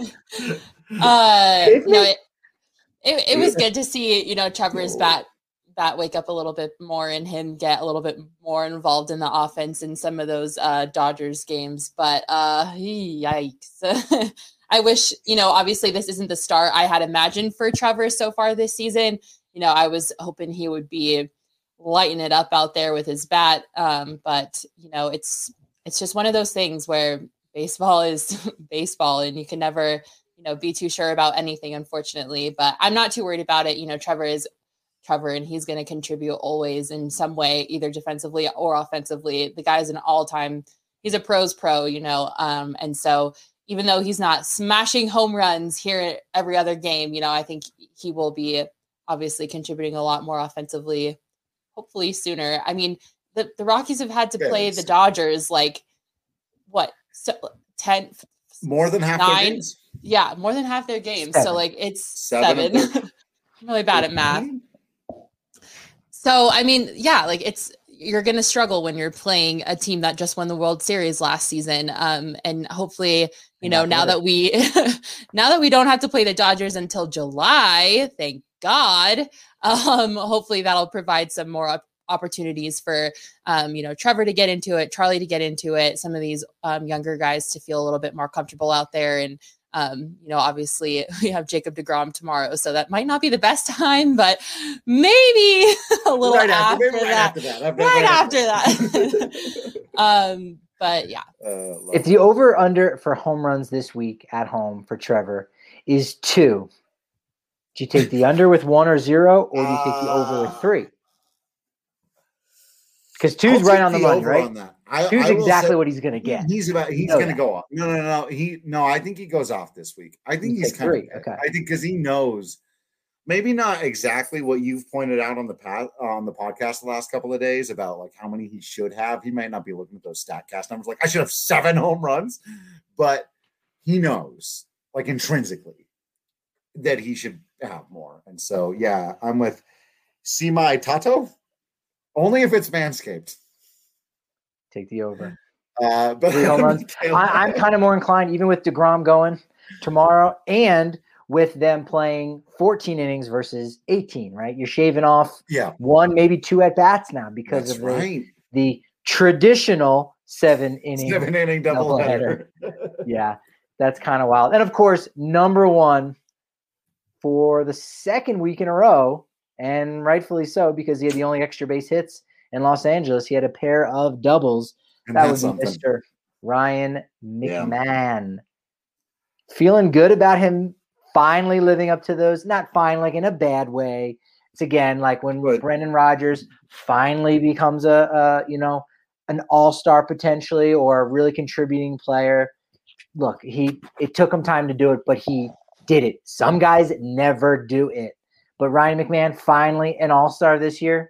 uh, you know, it, it it was good to see, you know, Trevor's bat bat wake up a little bit more and him get a little bit more involved in the offense in some of those uh, Dodgers games. But uh, yikes. I wish, you know, obviously this isn't the start I had imagined for Trevor so far this season. you know, I was hoping he would be lighting it up out there with his bat. Um, but, you know, it's it's just one of those things where baseball is baseball and you can never, you know, be too sure about anything, unfortunately. But I'm not too worried about it. You know, Trevor is Trevor, and he's going to contribute always in some way, either defensively or offensively. The guy's an all-time, he's a pro's pro, you know. Um, and so even though he's not smashing home runs here every other game, you know, I think he will be obviously contributing a lot more offensively, hopefully sooner. I mean, the, the Rockies have had to
Yes.
play the Dodgers like, what, so, ten?
More than half
nine?
their games?
Yeah, more than half their games.
Seven.
So, like, it's
Seven
seven. I'm really bad at math. So, I mean, yeah, like, it's, you're going to struggle when you're playing a team that just won the World Series last season. Um, and hopefully, you know, now that we, now that we don't have to play the Dodgers until July, thank God, um, hopefully that'll provide some more op- opportunities for, um, you know, Trevor to get into it, Charlie to get into it, some of these um, younger guys to feel a little bit more comfortable out there. And, um, you know, obviously we have Jacob deGrom tomorrow, so that might not be the best time, but maybe a little
Right
after,
after, right
that.
after that. Right,
Right
right
after
that.
that. um, but yeah.
Uh, love
If the over under for home runs this week at home for Trevor is two, do you take the under with one or zero, or do you take the over with three? Because two's
I'll
right
take
on the
the
money,
over
right?
on that. I,
Two's
I will
exactly
say-
what he's going to get.
He's about. He's
know
going to
that.
go off. No, no, no. He no. I think he goes off this week. I think
You
he's
take
kind
three,
of.
okay.
I think because he knows, maybe not exactly what you've pointed out on the path on the podcast the last couple of days about like how many he should have. He might not be looking at those StatCast numbers like I should have seven home runs, but he knows like intrinsically that he should have more. And so yeah, I'm with Simai Tato. Only if it's Manscaped.
Take the over.
Uh, but
Three home runs. I, I'm kind of more inclined, even with DeGrom going tomorrow and with them playing fourteen innings versus eighteen, right? You're shaving off
yeah,
one, maybe two at bats now because
that's
of the,
right.
the traditional seven inning.
Seven inning doubleheader.
Yeah, that's kind of wild. And of course, number one for the second week in a row, and rightfully so, because he had the only extra base hits in Los Angeles. He had a pair of doubles.
And
That would
that's
be
something.
Mister Ryan McMahon. Feeling good about him finally living up to those, not fine, like in a bad way. It's again like when
But-
Brendan Rodgers finally becomes a, a you know, an all-star potentially or a really contributing player. Look, he it took him time to do it, but he did it. Some guys never do it. But Ryan McMahon finally an all-star this year.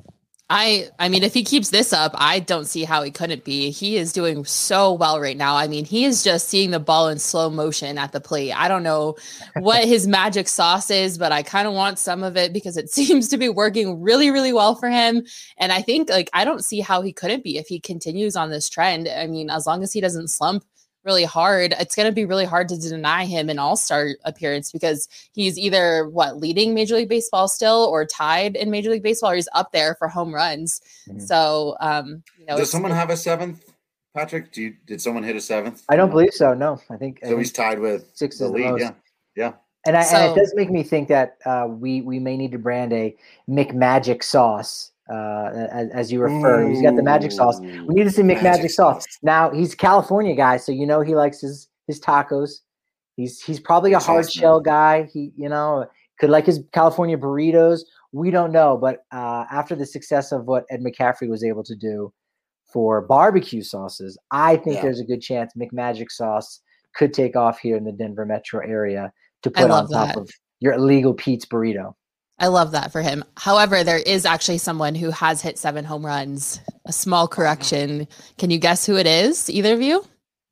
I I mean, if he keeps this up, I don't see how he couldn't be. He is doing so well right now. I mean, he is just seeing the ball in slow motion at the plate. I don't know what his magic sauce is, but I kind of want some of it because it seems to be working really, really well for him. And I think, like, I don't see how he couldn't be if he continues on this trend. I mean, as long as he doesn't slump really hard, it's going to be really hard to deny him an all-star appearance because he's either what leading Major League Baseball still or tied in Major League Baseball, or he's up there for home runs.
Mhm.
So, um, you know,
Does
it's-
someone have a seventh, Patrick? Do you, did someone hit a seventh?
I don't believe so. No, I think I
So
think
he's tied with
six
the
is the
lead.
most.
Yeah, yeah.
And, I, and
So-
it does make me think that uh, we we may need to brand a McMagic sauce, uh, as, as you refer. He's got the magic sauce. We need to see McMagic
Magic
sauce.
sauce.
Now he's a California guy, so you know he likes his his tacos. He's he's probably a
Sauce,
hard
man.
shell guy. He you know could like his California burritos. We don't know, but uh, after the success of what Ed McCaffrey was able to do for barbecue sauces, I think
Yeah.
there's a good chance McMagic sauce could take off here in the Denver metro area to
I
put on
love
top
that.
of your illegal Pete's burrito.
I love that for him. However, there is actually someone who has hit seven home runs. A small correction. Can you guess who it is? Either of you?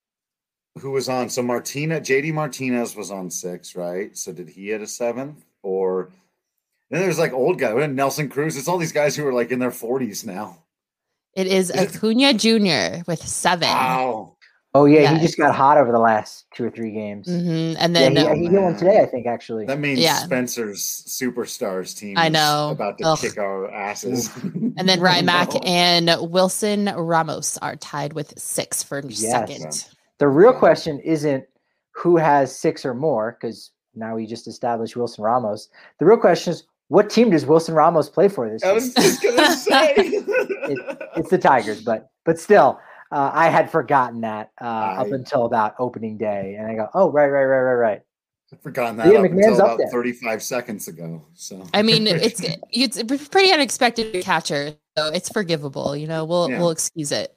Who was on? So Martina, J D Martinez was on six, right? So did he hit a seventh? Or then there's like old guy, Nelson Cruz. It's all these guys who are like in their forties now.
It is
Is it-
Acuna Junior with seven.
Wow.
Oh yeah, he
Yes.
just got hot over the last two or three games.
Mhm. And
Yeah,
then
he,
Oh,
he hit one
man.
today, I think. Actually,
That means
Yeah.
Spencer's Superstars team
I
is
know.
about to
Ugh.
kick our asses.
and then Rymack and Wilson Ramos are tied with six for
Yes.
second.
the real
Yeah.
question isn't who has six or more, because now we just established Wilson Ramos. The real question is what team does Wilson Ramos play for this year?
I was just gonna say
it, it's the Tigers, but but still, uh, I had forgotten that uh, I, up until about opening day, and I go, oh right, right, right, right, right.
I've forgotten that
Ian
up
McMahon's
until
up
about
there.
thirty-five seconds ago. So
I mean, it's it's pretty unexpected catcher, so it's forgivable. You know, we'll
Yeah.
we'll excuse it.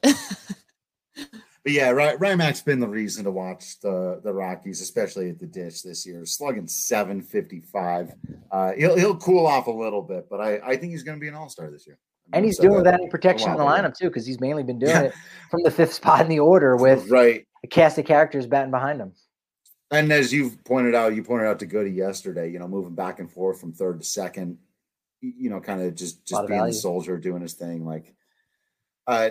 But yeah, Ry- Rymack's been the reason to watch the, the Rockies, especially at the Ditch this year. Slugging seven fifty-five. Uh, he'll he'll cool off a little bit, but I, I think he's going to be an all-star this year. I
And
mean,
he's
so
doing
that-
without any protection in the
while ago.
lineup too, because he's mainly been doing
Yeah.
it from the fifth spot in the order with
right.
a cast of characters batting behind him.
And as you've pointed out, you pointed out to Goody yesterday, you know, moving back and forth from third to second, y- you know, kind of just
Lot
just
of
being the
value.
soldier, doing his thing. Like, uh,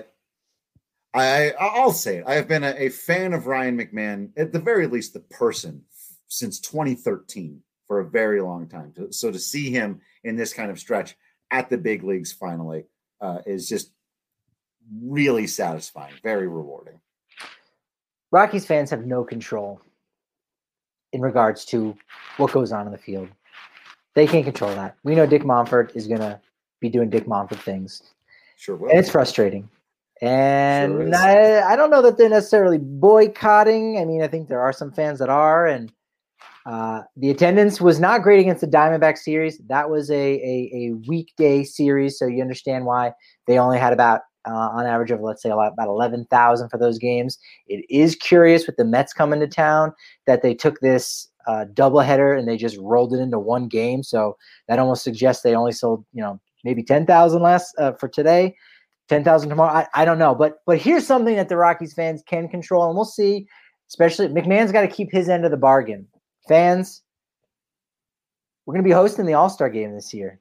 I I'll say it. I have been a, a fan of Ryan McMahon, at the very least, the person, since twenty thirteen for a very long time. So- So to see him in this kind of stretch at the big leagues finally uh, is just really satisfying, very rewarding.
Rockies fans have no control in regards to what goes on in the field. They can't control that. We know Dick Monfort is going to be doing Dick Monfort things.
Sure will.
And it's frustrating. And
Sure is.
I, I don't know that they're necessarily boycotting. I mean, I think there are some fans that are. And uh, the attendance was not great against the Diamondback series. That was a, a, a weekday series, so you understand why they only had about, uh, on average of, let's say, about eleven thousand for those games. It is curious with the Mets coming to town that they took this uh, doubleheader and they just rolled it into one game. So that almost suggests they only sold, you know, maybe ten thousand less uh, for today, ten thousand tomorrow. I, I don't know. But but here's something that the Rockies fans can control, and we'll see. Especially McMahon's got to keep his end of the bargain. Fans, we're going to be hosting the All-Star game this year.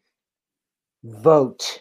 Vote.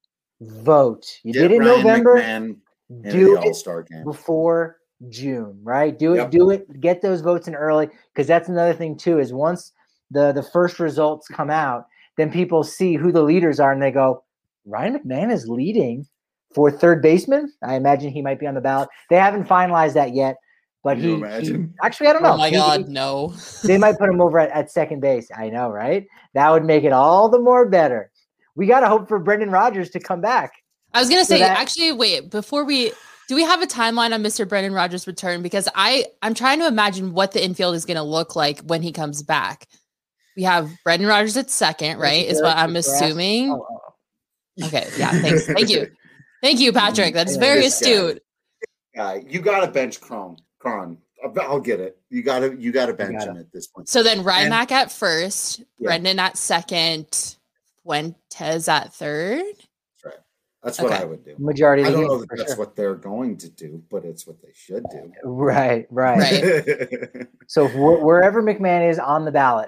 Vote. You
Get
did it in
Ryan
November.
McMahon into
Do
the
it
All-Star game.
before June, right? Do it,
Yep.
do it, get those votes in early, because that's another thing too, is once the, the first results come out, then people see who the leaders are and they go, Ryan McMahon is leading for third baseman. I imagine he might be on the ballot. They haven't finalized that yet, but
Can
he,
you
he
imagine?
actually, I don't know.
Oh my
He-
God,
he-
no.
they might put him over at, at second base. I know, right? That would make it all the more better. We got to hope for Brendan Rodgers to come back.
I was gonna
So
say,
that-
actually, wait, before we do we have a timeline on Mister Brendan Rodgers' return? Because I I'm trying to imagine what the infield is gonna look like when he comes back. We have Brendan Rodgers at second, right? Is what I'm assuming.
Oh, oh, oh.
Okay, yeah, thanks. Thank you. Thank you, Patrick. That's very
This guy.
astute.
Uh, you got to bench Cron. Cron. I'll, I'll get it. You got to you got to bench
gotta.
him at this point.
So then
And-
Rymack at first,
Yeah.
Brendan at second, Fuentes at third.
That's right. That's what
Okay.
I would do.
Majority of
I
the
don't
game,
know that
for
that's
sure.
what they're going to do, but it's what they should do.
Right, right.
Right.
So wh- wherever McMahon is on the ballot,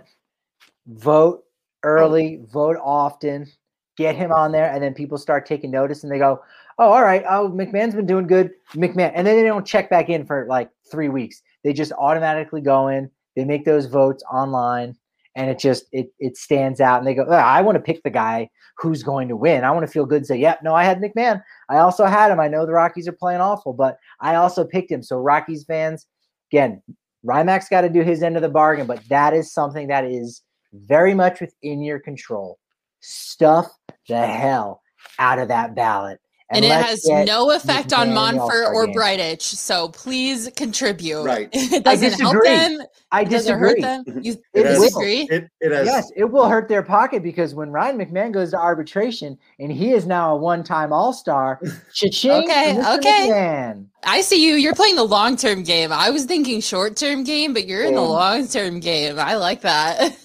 vote early, vote often, get him on there, and then people start taking notice and they go, oh, all right, oh, McMahon's been doing good, McMahon. And then they don't check back in for like three weeks. They just automatically go in, they make those votes online, and it just, it it stands out. And they go, oh, I want to pick the guy who's going to win. I want to feel good and say, yep, no, I had McMahon. I also had him. I know the Rockies are playing awful, but I also picked him. So Rockies fans, again, Rymack's got to do his end of the bargain, but that is something that is very much within your control. Stuff the hell out of that ballot.
And, it
let's
has
get
no effect on
McMahon in the
Monfort
All-Star
or
game.
Brightich. So please contribute.
Right.
It doesn't help
disagree.
them.
I
It doesn't hurt
disagree.
them. You
It
has-
disagree?
It, it has.
Yes, it will hurt their pocket because when Ryan McMahon goes to arbitration and he is now a one-time All-Star, cha-ching
Okay,
for Mister
okay.
McMahon.
I see you. You're playing the long term game. I was thinking short term game, but you're in the
Um,
long term game. I like that.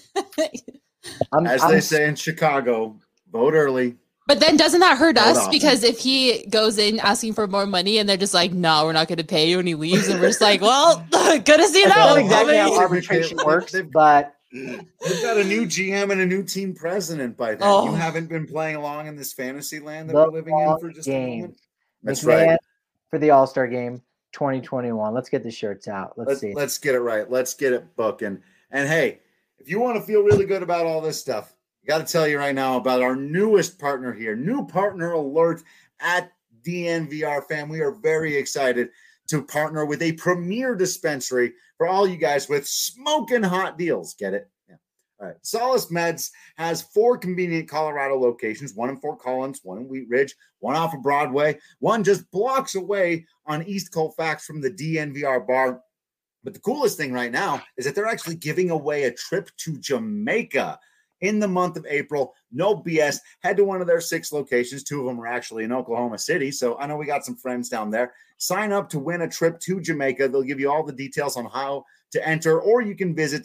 I'm,
As
I'm-
they say in Chicago, vote early.
But then doesn't that hurt
Hold
us?
on.
Because if he goes in asking for more money and they're just like, no, we're not going to pay you, and he leaves, and we're just like, well, good to see you
That's
now.
not exactly how
They-
arbitration
they-
works,
they've-
but
They've got a new G M and a new team president by then.
Oh.
You haven't been playing along in this fantasy land that
The
we're living in
long
for just
game.
a moment. That's
McMahon
right.
for the All-Star game twenty twenty-one. Let's get the shirts out. Let's
Let's,
see.
let's get it right. Let's get it booking. And hey, if you want to feel really good about all this stuff, I got to tell you right now about our newest partner here. New partner alert at D N V R, fam. We are very excited to partner with a premier dispensary for all you guys with smoking hot deals. Get it? Yeah. All right. Solace Meds has four convenient Colorado locations, one in Fort Collins, one in Wheat Ridge, one off of Broadway, one just blocks away on East Colfax from the D N V R bar. But the coolest thing right now is that they're actually giving away a trip to Jamaica in the month of April. No B S. Head to one of their six locations. Two of them are actually in Oklahoma City. So I know we got some friends down there. Sign up to win a trip to Jamaica. They'll give you all the details on how to enter, or you can visit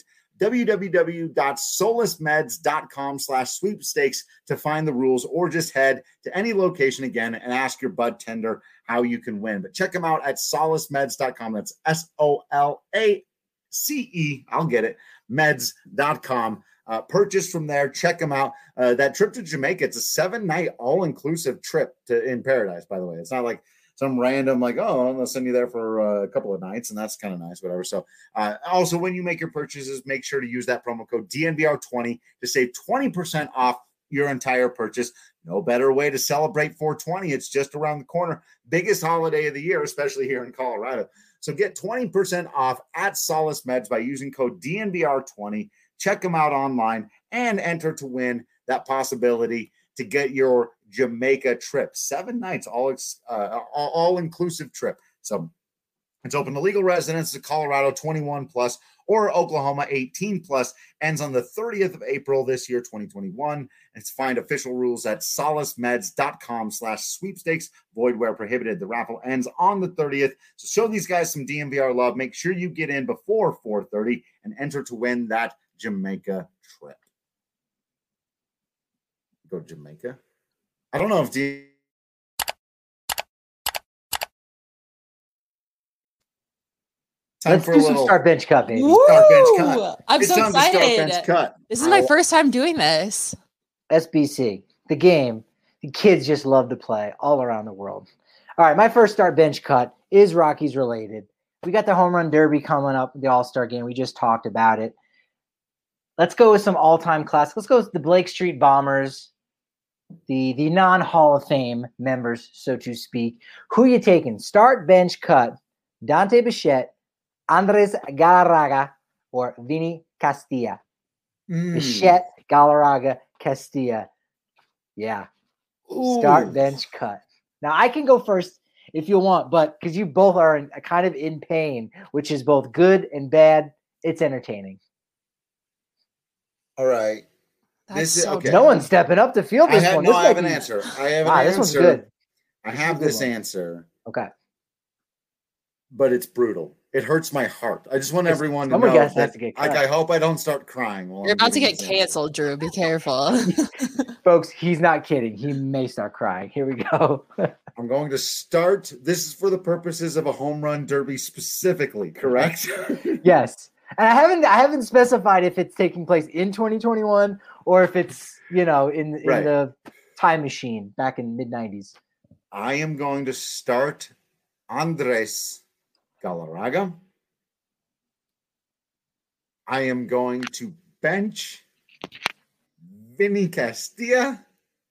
www.solacemeds.com slash sweepstakes to find the rules, or just head to any location again and ask your bud tender how you can win. But check them out at solace meds dot com. That's S O L A C E, I'll get it, meds dot com. Uh, purchase from there. Check them out. Uh, that trip to Jamaica, it's a seven-night all-inclusive trip to in paradise, by the way. It's not like some random, like, oh, I'm going to send you there for uh, a couple of nights, and that's kind of nice, whatever. So uh, also, when you make your purchases, make sure to use that promo code D N V R twenty to save twenty percent off your entire purchase. No better way to celebrate four twenty. It's just around the corner. Biggest holiday of the year, especially here in Colorado. So get twenty percent off at Solace Meds by using code D N V R twenty. Check them out online and enter to win that possibility to get your Jamaica trip. Seven nights, all uh, all, all inclusive trip. So it's open to legal residents of Colorado twenty-one plus or Oklahoma eighteen plus. Ends on the thirtieth of April this year, twenty twenty-one. It's find official rules at solacemeds.com slash sweepstakes. Void where prohibited. The raffle ends on the thirtieth. So show these guys some D N V R love. Make sure you get in before four thirty and enter to win that Jamaica trip. Go to Jamaica. I don't know if D.
Time Let's for do a some little start bench cut, baby.
Woo!
Start bench cut.
I'm
it's
so
time
excited.
To start bench cut.
This is my first time doing this.
S B C, the game the kids just love to play all around the world. All right, my first start bench cut is Rockies related. We got the home run derby coming up, the All-Star game. We just talked about it. Let's go with some all-time classics. Let's go with the Blake Street Bombers, the, the non-Hall of Fame members, so to speak. Who you taking? Start, bench, cut. Dante Bichette, Andres Galarraga, or Vinny Castilla. Mm. Bichette, Galarraga, Castilla. Yeah. Ooh. Start, bench, cut. Now, I can go first if you want, but because you both are in, kind of in pain, which is both good and bad, it's entertaining.
All right.
That's this is so
okay. No one's stepping up to field this
I have,
one.
No,
this
I have an be... answer. I have an ah, answer. This one's good. I have this one. answer.
Okay.
But it's brutal. It hurts my heart. I just want everyone to know that. To get like, I hope I don't start crying.
You're about to get canceled, Drew. Be careful.
Folks, he's not kidding. He may start crying. Here we go.
I'm going to start. This is for the purposes of a home run derby specifically, correct?
Yes. And I haven't I haven't specified if it's taking place in twenty twenty-one or if it's, you know, in, in right. the time machine back in mid nineties.
I am going to start Andres Galarraga. I am going to bench Vinny Castilla.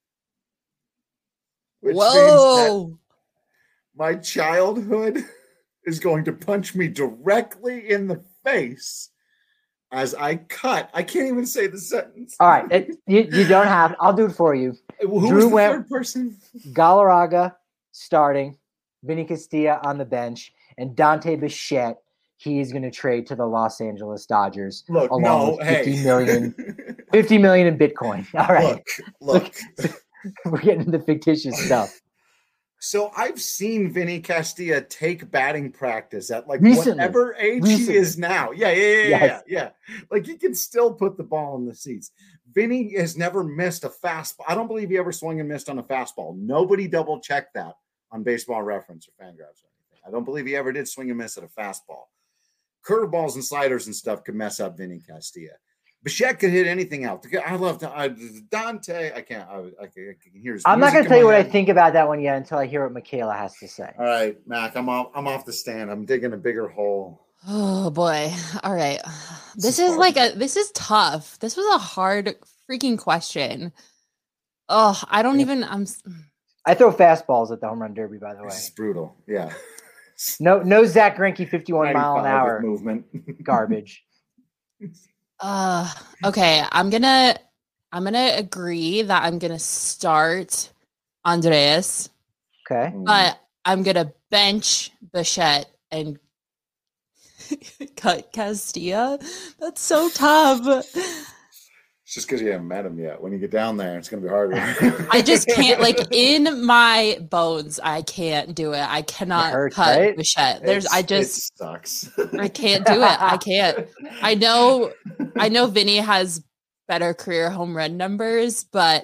Which
Whoa!
Means that my childhood is going to punch me directly in the face as I cut. I can't even say the sentence.
All right. It, you, you don't have. I'll do it for you.
Who Drew was the went, third person?
Galarraga starting, Vinny Castilla on the bench, and Dante Bichette. He's going to trade to the Los Angeles Dodgers.
Look,
along
no,
with fifty
hey.
million, fifty million in Bitcoin. All right.
Look, look.
We're getting into fictitious stuff.
So I've seen Vinny Castilla take batting practice at like
Recently.
whatever age Recently. he is now. Yeah, yeah, yeah, yes. yeah, yeah. Like he can still put the ball in the seats. Vinny has never missed a fastball. I don't believe he ever swung and missed on a fastball. Nobody double checked that on Baseball Reference or Fangraphs or anything. I don't believe he ever did swing and miss at a fastball. Curveballs and sliders and stuff could mess up Vinny Castilla. Bichette could hit anything out. I love I, Dante. I can't. I, I, I can hear his
I'm not going to tell you what head. I think about that one yet until I hear what Michaela has to say.
All right, Mac. I'm off. I'm off the stand. I'm digging a bigger hole.
Oh boy. All right. This, this is, is like a. This is tough. This was a hard freaking question. Oh, I don't yeah. even. I'm.
I throw fastballs at the home run derby. By the way,
it's brutal. Yeah.
No, no Zach Greinke fifty-one mile an hour
movement.
Garbage.
Uh, okay, I'm gonna I'm gonna agree that I'm gonna start Andreas,
Okay.
but I'm gonna bench Bichette and cut Castilla. That's so tough.
It's just because you haven't met him yet. When you get down there, it's going to be harder.
I just can't, like, in my bones, I can't do it. I cannot
hurts,
cut
right?
Bichette. There's,
It's-
I just,
it sucks.
I can't do it. I can't. I know, I know Vinny has better career home run numbers, but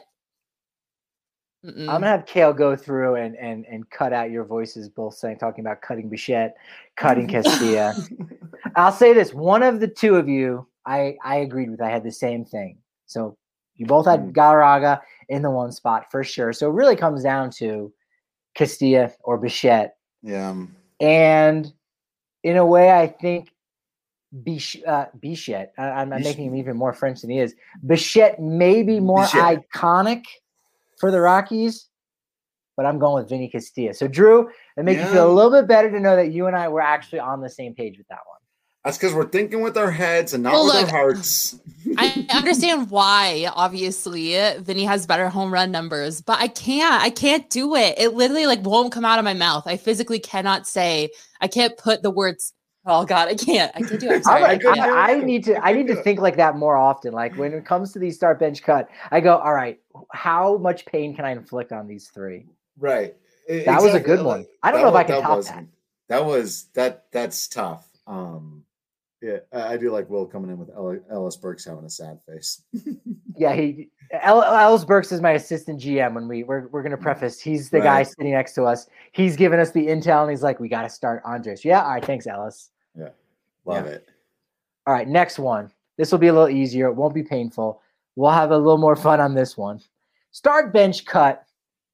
mm-mm.
I'm gonna have Kale go through and and and cut out your voices, both saying talking about cutting Bichette, cutting Castilla. I'll say this: one of the two of you, I I agreed with. I had the same thing. So you both had
Mm.
Galarraga in the one spot for sure. So it really comes down to Castilla or Bichette.
Yeah.
And in a way, I think Bich- uh, Bichette, I, I'm, I'm
Bich-
making him even more French than he is. Bichette may be more
Bichette.
iconic for the Rockies, but I'm going with Vinny Castilla. So, Drew, it makes
Yeah.
you feel a little bit better to know that you and I were actually on the same page with that one.
That's because we're thinking with our heads and not
Well,
with
look,
our hearts.
I understand why, obviously, Vinny has better home run numbers, but I can't. I can't do it. It literally like won't come out of my mouth. I physically cannot say. I can't put the words. Oh God, I can't. I can't do it. I'm sorry.
I,
I can't.
I, I need to. I need to think like that more often. Like when it comes to these start bench cut, I go, all right, how much pain can I inflict on these three?
Right.
That was a good one. I don't know if I can top that.
That was that. That's tough. Um, yeah, I I do like Will coming in with Ellis, Ellis Burks having a sad face.
Yeah, he El, Ellis Burks is my assistant G M. When we we're we're gonna preface, he's the guy
Right.
sitting next to us. He's giving us the intel, and he's like, "We got to start Andres." Yeah, all right, thanks, Ellis.
Yeah, love
Yeah.
it.
All right, next one. This will be a little easier. It won't be painful. We'll have a little more fun on this one. Start bench cut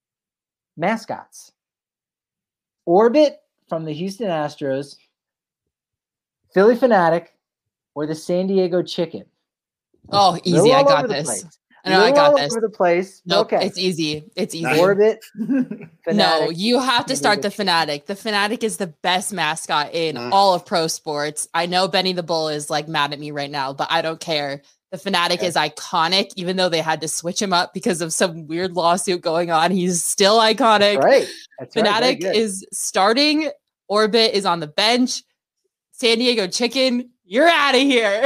mascots. Orbit from the Houston Astros, Philly Fanatic, or the San Diego Chicken.
Oh,
Little
easy. I
all
got
over the
this.
place.
I know I
Little
got
all
this.
over the place.
Nope,
Okay.
it's easy. It's easy.
Nice.
Orbit.
No,
Fanatic,
you have to
San
start
Diego
the
Chicken.
Fanatic. The Fanatic is the best mascot in
Nah.
all of pro sports. I know Benny the Bull is like mad at me right now, but I don't care. The Fanatic
Yeah.
is iconic, even though they had to switch him up because of some weird lawsuit going on. He's still iconic.
That's right. That's right. Very
Fanatic
good.
is starting. Orbit is on the bench. San Diego Chicken, you're out of here.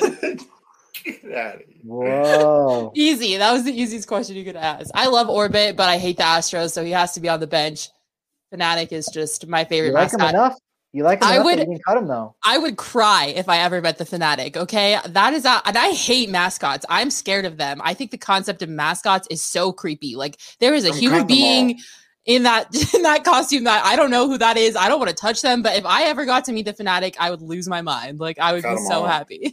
Get out of here.
Whoa.
Easy. That was the easiest question you could ask. I love Orbit, but I hate the Astros, so he has to be on the bench. Fanatic is just my favorite
You like him
mascot.
enough? You like him
I
enough
would-
that you didn't cut him though.
I would cry if I ever met the Fanatic. Okay, that is a, and I hate mascots. I'm scared of them. I think the concept of mascots is so creepy. Like there is a
I'm
human
cutting them all.
being in that in that costume that I don't know who that is. I don't want to touch them. But if I ever got to meet the Fanatic, I would lose my mind. Like I would
Cut
be
'em
so
all.
happy.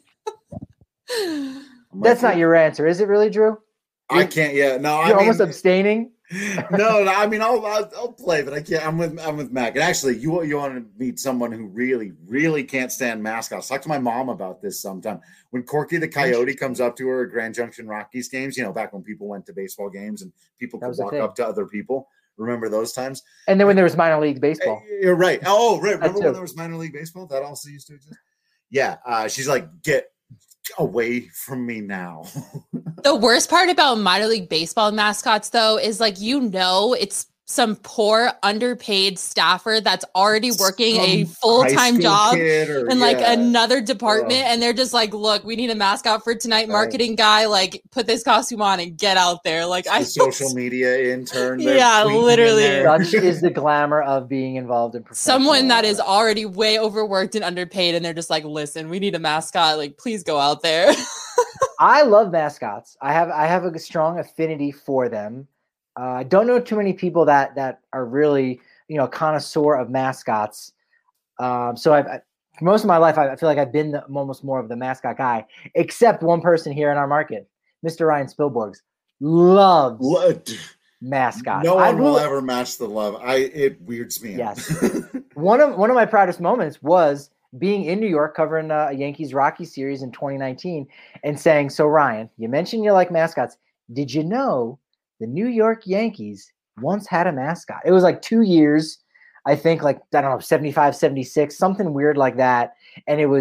I'm
That's
like,
not your answer, is it really, Drew?
I can't. Yeah. No. I
You're
mean,
almost abstaining.
no, no, I mean, I'll, I'll I'll play, but I can't. I'm with I'm with Mac. And actually, you you want to meet someone who really really can't stand mascots. Talk to my mom about this sometime. When Corky the Coyote comes up to her at Grand Junction Rockies games, you know, back when people went to baseball games and people
That
could
was a
walk
thing.
up to other people. Remember those times?
And then when there was minor league baseball.
Eh, You're right. Oh, right. Remember
too.
when there was minor league baseball? That also used to exist. Yeah. Uh, she's like, get away from me now.
The worst part about minor league baseball mascots, though, is like, you know, it's some poor underpaid staffer that's already working a
Some
full-time
high school
job
kid or-
in like
yeah.
another department.
Ugh.
And they're just like, look, we need a mascot for tonight.
Right.
Marketing guy, like put this costume on and get out there. Like I
the social media intern. they're
Yeah,
tweeting in
literally.
there.
Such is the glamour of being involved in professional.
someone that is already way overworked and underpaid. And they're just like, listen, we need a mascot. Like, please go out there.
I love mascots. I have I have a strong affinity for them. Uh, I don't know too many people that that are really you know connoisseur of mascots. Um, so I've I, for most of my life, I, I feel like I've been the, almost more of the mascot guy, except one person here in our market, Mister Ryan Spielborgs, loves
Lo-
mascots.
No
I
one will
really-
ever match the love. I it weirds me. out.
Yes. One of one of my proudest moments was being in New York covering uh, a Yankees Rocky series in twenty nineteen and saying, "So Ryan, you mentioned you like mascots. Did you know the New York Yankees once had a mascot?" It was like two years, I think, like I don't know, seventy-five, seventy-six, something weird like that. And it was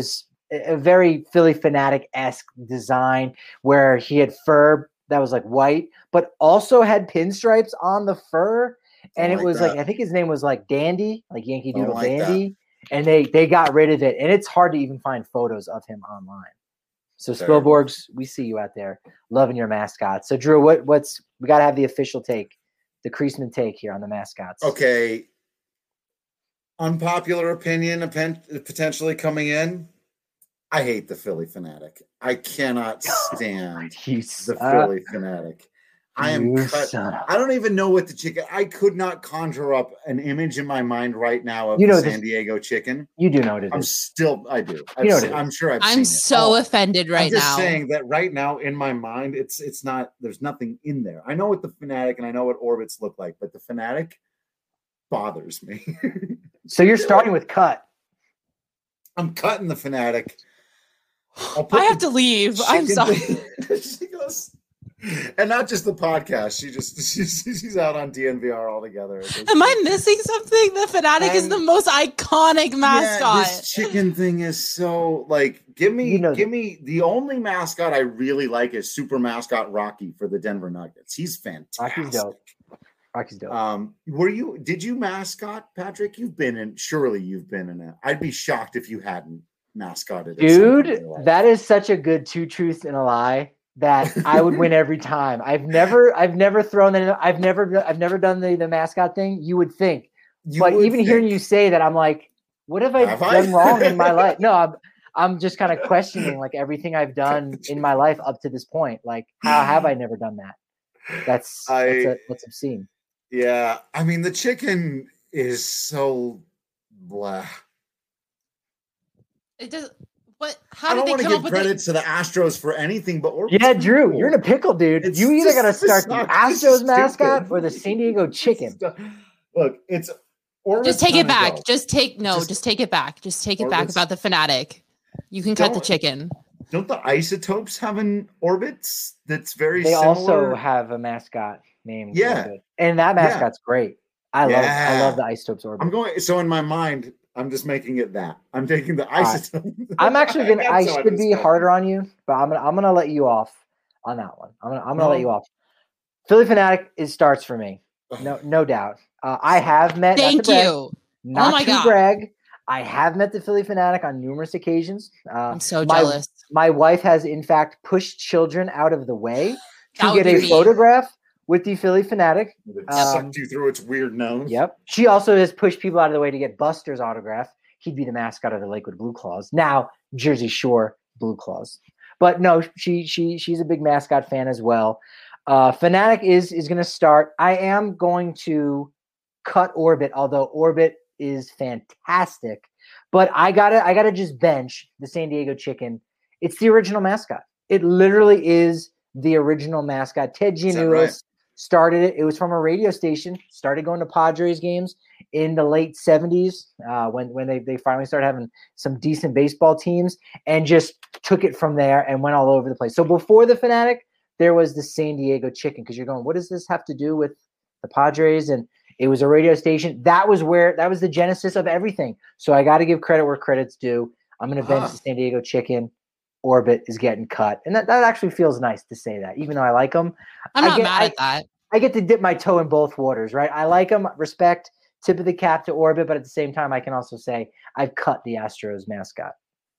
a, a very Philly Fanatic-esque design where he had fur that was like white, but also had pinstripes on the fur. And it
like
was
that.
like, I think his name was like Dandy, like Yankee
Don't
Doodle
like
Dandy. And they they got rid of it. And it's hard to even find photos of him online. So
Fair
Spilborgs, we see you out there loving your mascots. So Drew, what what's we got to have the official take, the Creasman take here on the mascots.
Okay. Unpopular opinion potentially coming in. I hate the Philly Fanatic. I cannot stand
You
the
suck.
Philly Fanatic. I am
You
cut.
suck.
I don't even know what the chicken. I could not conjure up an image in my mind right now of
You know
the San
this-
Diego chicken.
You do know what it
I'm
is.
still. I do. I've
You know what
seen-
it is.
I'm sure I've
I'm
seen it.
so
Oh,
offended right
I'm just
now.
saying that right now in my mind, it's it's not. There's nothing in there. I know what the Fanatic and I know what orbits look like, but the Fanatic bothers me.
So you're starting with cut.
I'm cutting the Fanatic. I'll put
I have
the
to leave. I'm
chicken
sorry.
thing- she goes, and not just the podcast. She just she's, she's out on D N V R altogether.
Am I missing something? The Fanatic is
Um,
the most iconic mascot.
Yeah, this chicken thing is so like. Give me,
You know
give
that-
me the only mascot I really like is Super Mascot Rocky for the Denver Nuggets. He's fantastic.
Rocky's dope. Rocky's dope.
Um, were you? Did you mascot, Patrick? You've been in. Surely you've been in it. I'd be shocked if you hadn't mascotted. at some point in
Dude,
your life.
that is such a good two truths and a lie that I would win every time. I've never, I've never thrown that. I've never, I've never done the, the mascot thing. You would think,
You
but
would
even hearing
think.
you say that, I'm like, what have I
Have I?
done wrong in my life? No, I'm, I'm just kind of questioning like everything I've done in my life up to this point. Like, how have I never done that? That's
I-
that's, a, that's obscene.
Yeah, I mean the chicken is so blah.
It does. What? How
I
did
don't
they
want to
come
give
up with
credit
it?
to the Astros for anything, but Orbit's
Yeah,
pretty
Drew,
cool.
you're in a pickle, dude.
It's
you either
just-
got to
this
start the
sucks. This is
Astros mascot
stupid.
or the San Diego chicken.
Look, it's Orbit's
Just take it
gonna
back.
go.
Just take no.
Just-
Just, take it back. Just take it
Or
back
it's-
about the Fanatic. You can cut the
Don't-
chicken.
Don't the Isotopes have an Orbits that's very
They
similar?
also have a mascot named
Yeah.
Orbit. And that
Yeah.
mascot's great. I love I
Yeah.
love the Isotopes Orbit.
I'm going. So in my mind, I'm just making it that I'm taking the
right.
Isotopes.
I'm actually gonna. I
That's how
should be
describe
harder
it.
on you, but I'm gonna. I'm gonna let you off on that one. I'm gonna. I'm gonna let
No.
you off. Philly Fanatic is starts for me. No, no doubt. Uh, I have met. not to
Thank
brag,
you.
Not
my
to
God.
brag. I have met the Philly Fanatic on numerous occasions. Uh,
I'm so
my,
jealous.
My wife has, in fact, pushed children out of the way
That
to
would
get
be
a
me.
photograph with the Philly Fanatic.
It
Um,
sucked you through its weird nose.
Yep. She also has pushed people out of the way to get Buster's autograph. He'd be the mascot of the Lakewood Blue Claws. Now Jersey Shore Blue Claws. But no, she she she's a big mascot fan as well. Uh, Fanatic is is going to start. I am going to cut Orbit, although Orbit is fantastic. But I gotta I gotta just bench the San Diego chicken. It's the original mascot. It literally is the original mascot. Ted
Is that
Giannoulis
right?
started it. It was from a radio station. Started going to Padres games in the late seventies uh, when when they, they finally started having some decent baseball teams, and just took it from there and went all over the place. So before the Fanatic, there was the San Diego chicken, because you're going, what does this have to do with the Padres? And it was a radio station. That was where that was the genesis of everything. So I got to give credit where credit's due. I'm going to bench
Huh.
the San Diego chicken. Orbit is getting cut, and that, that actually feels nice to say that, even though I like them.
I'm
I
not
get-
mad
I-
at that.
I get to dip my toe in both waters, right? I like them, respect, tip of the cap to Orbit, but at the same time, I can also say I've cut the Astros mascot.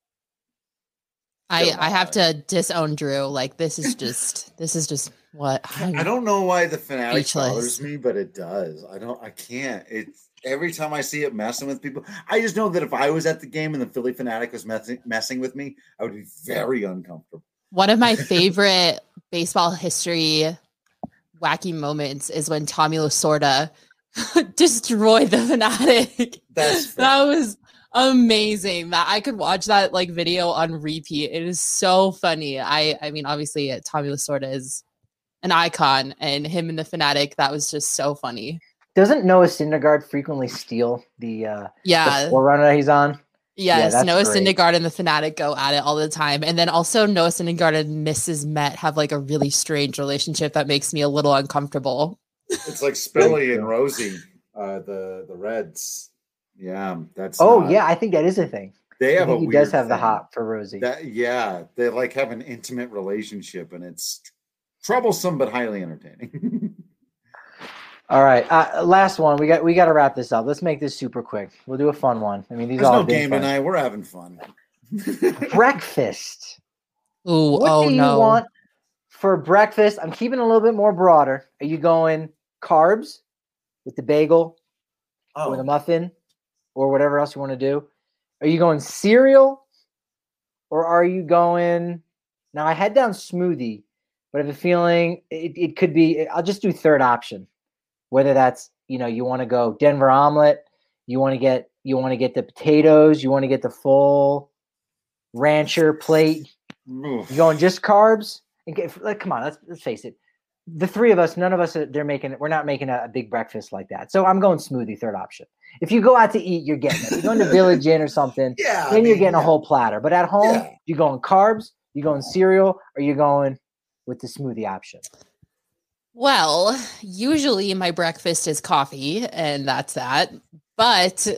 I,
Come
I have
on.
to disown Drew. Like this is just this is just what
I don't know why the Fanatic
Speechless.
bothers me, but it does. I don't. I can't. It's every time I see it messing with people. I just know that if I was at the game and the Philly Fanatic was messing messing with me, I would be very uncomfortable.
One of my favorite baseball history wacky moments is when Tommy Lasorda destroyed the Fanatic.
That's fair.
That was amazing. That I could watch that like video on repeat. It is so funny. I I mean, obviously, uh, Tommy Lasorda is an icon, and him and the Fanatic. That was just so funny.
Doesn't Noah Syndergaard frequently steal the, uh, the
Yeah.
forerunner he's on?
Yes,
that's
Noah
great.
Syndergaard and the Fanatic go at it all the time. And then also Noah Syndergaard and Missus Met have like a really strange relationship that makes me a little uncomfortable.
It's like Spilly and Rosie, uh, the the Reds. Yeah, that's.
Oh,
not-
yeah, I think that is a thing.
They have
I
a
think he
weird
does have the
thing.
hop for Rosie.
That yeah, they like have an intimate relationship, and it's troublesome but highly entertaining.
All right, uh, last one. We got we got to wrap this up. Let's make this super quick. We'll do a fun one. I mean, these
There's
all
no
have been
game
fun.
tonight. We're having fun.
Breakfast.
Ooh,
What
oh
do you
no.
want for breakfast? I'm keeping it a little bit more broader. Are you going carbs with the bagel
Oh,
or the muffin or whatever else you want to do? Are you going cereal or are you going – now I had down smoothie, but I have a feeling it, it could be – I'll just do third option, whether that's, you know, you want to go Denver omelet, you want to get you want to get the potatoes, you want to get the full rancher plate.
oof.
You going just carbs? And get, like, come on, let's let's face it. The three of us, none of us are they're making we're not making a, a big breakfast like that. So I'm going smoothie, third option. If you go out to eat, you're getting it. You're going to Village Inn or something,
Yeah, I
then you're
mean,
getting a
yeah.
whole platter. But at home,
Yeah.
you going carbs, you going cereal, or you going with the smoothie option?
Well, usually my breakfast is coffee, and that's that. But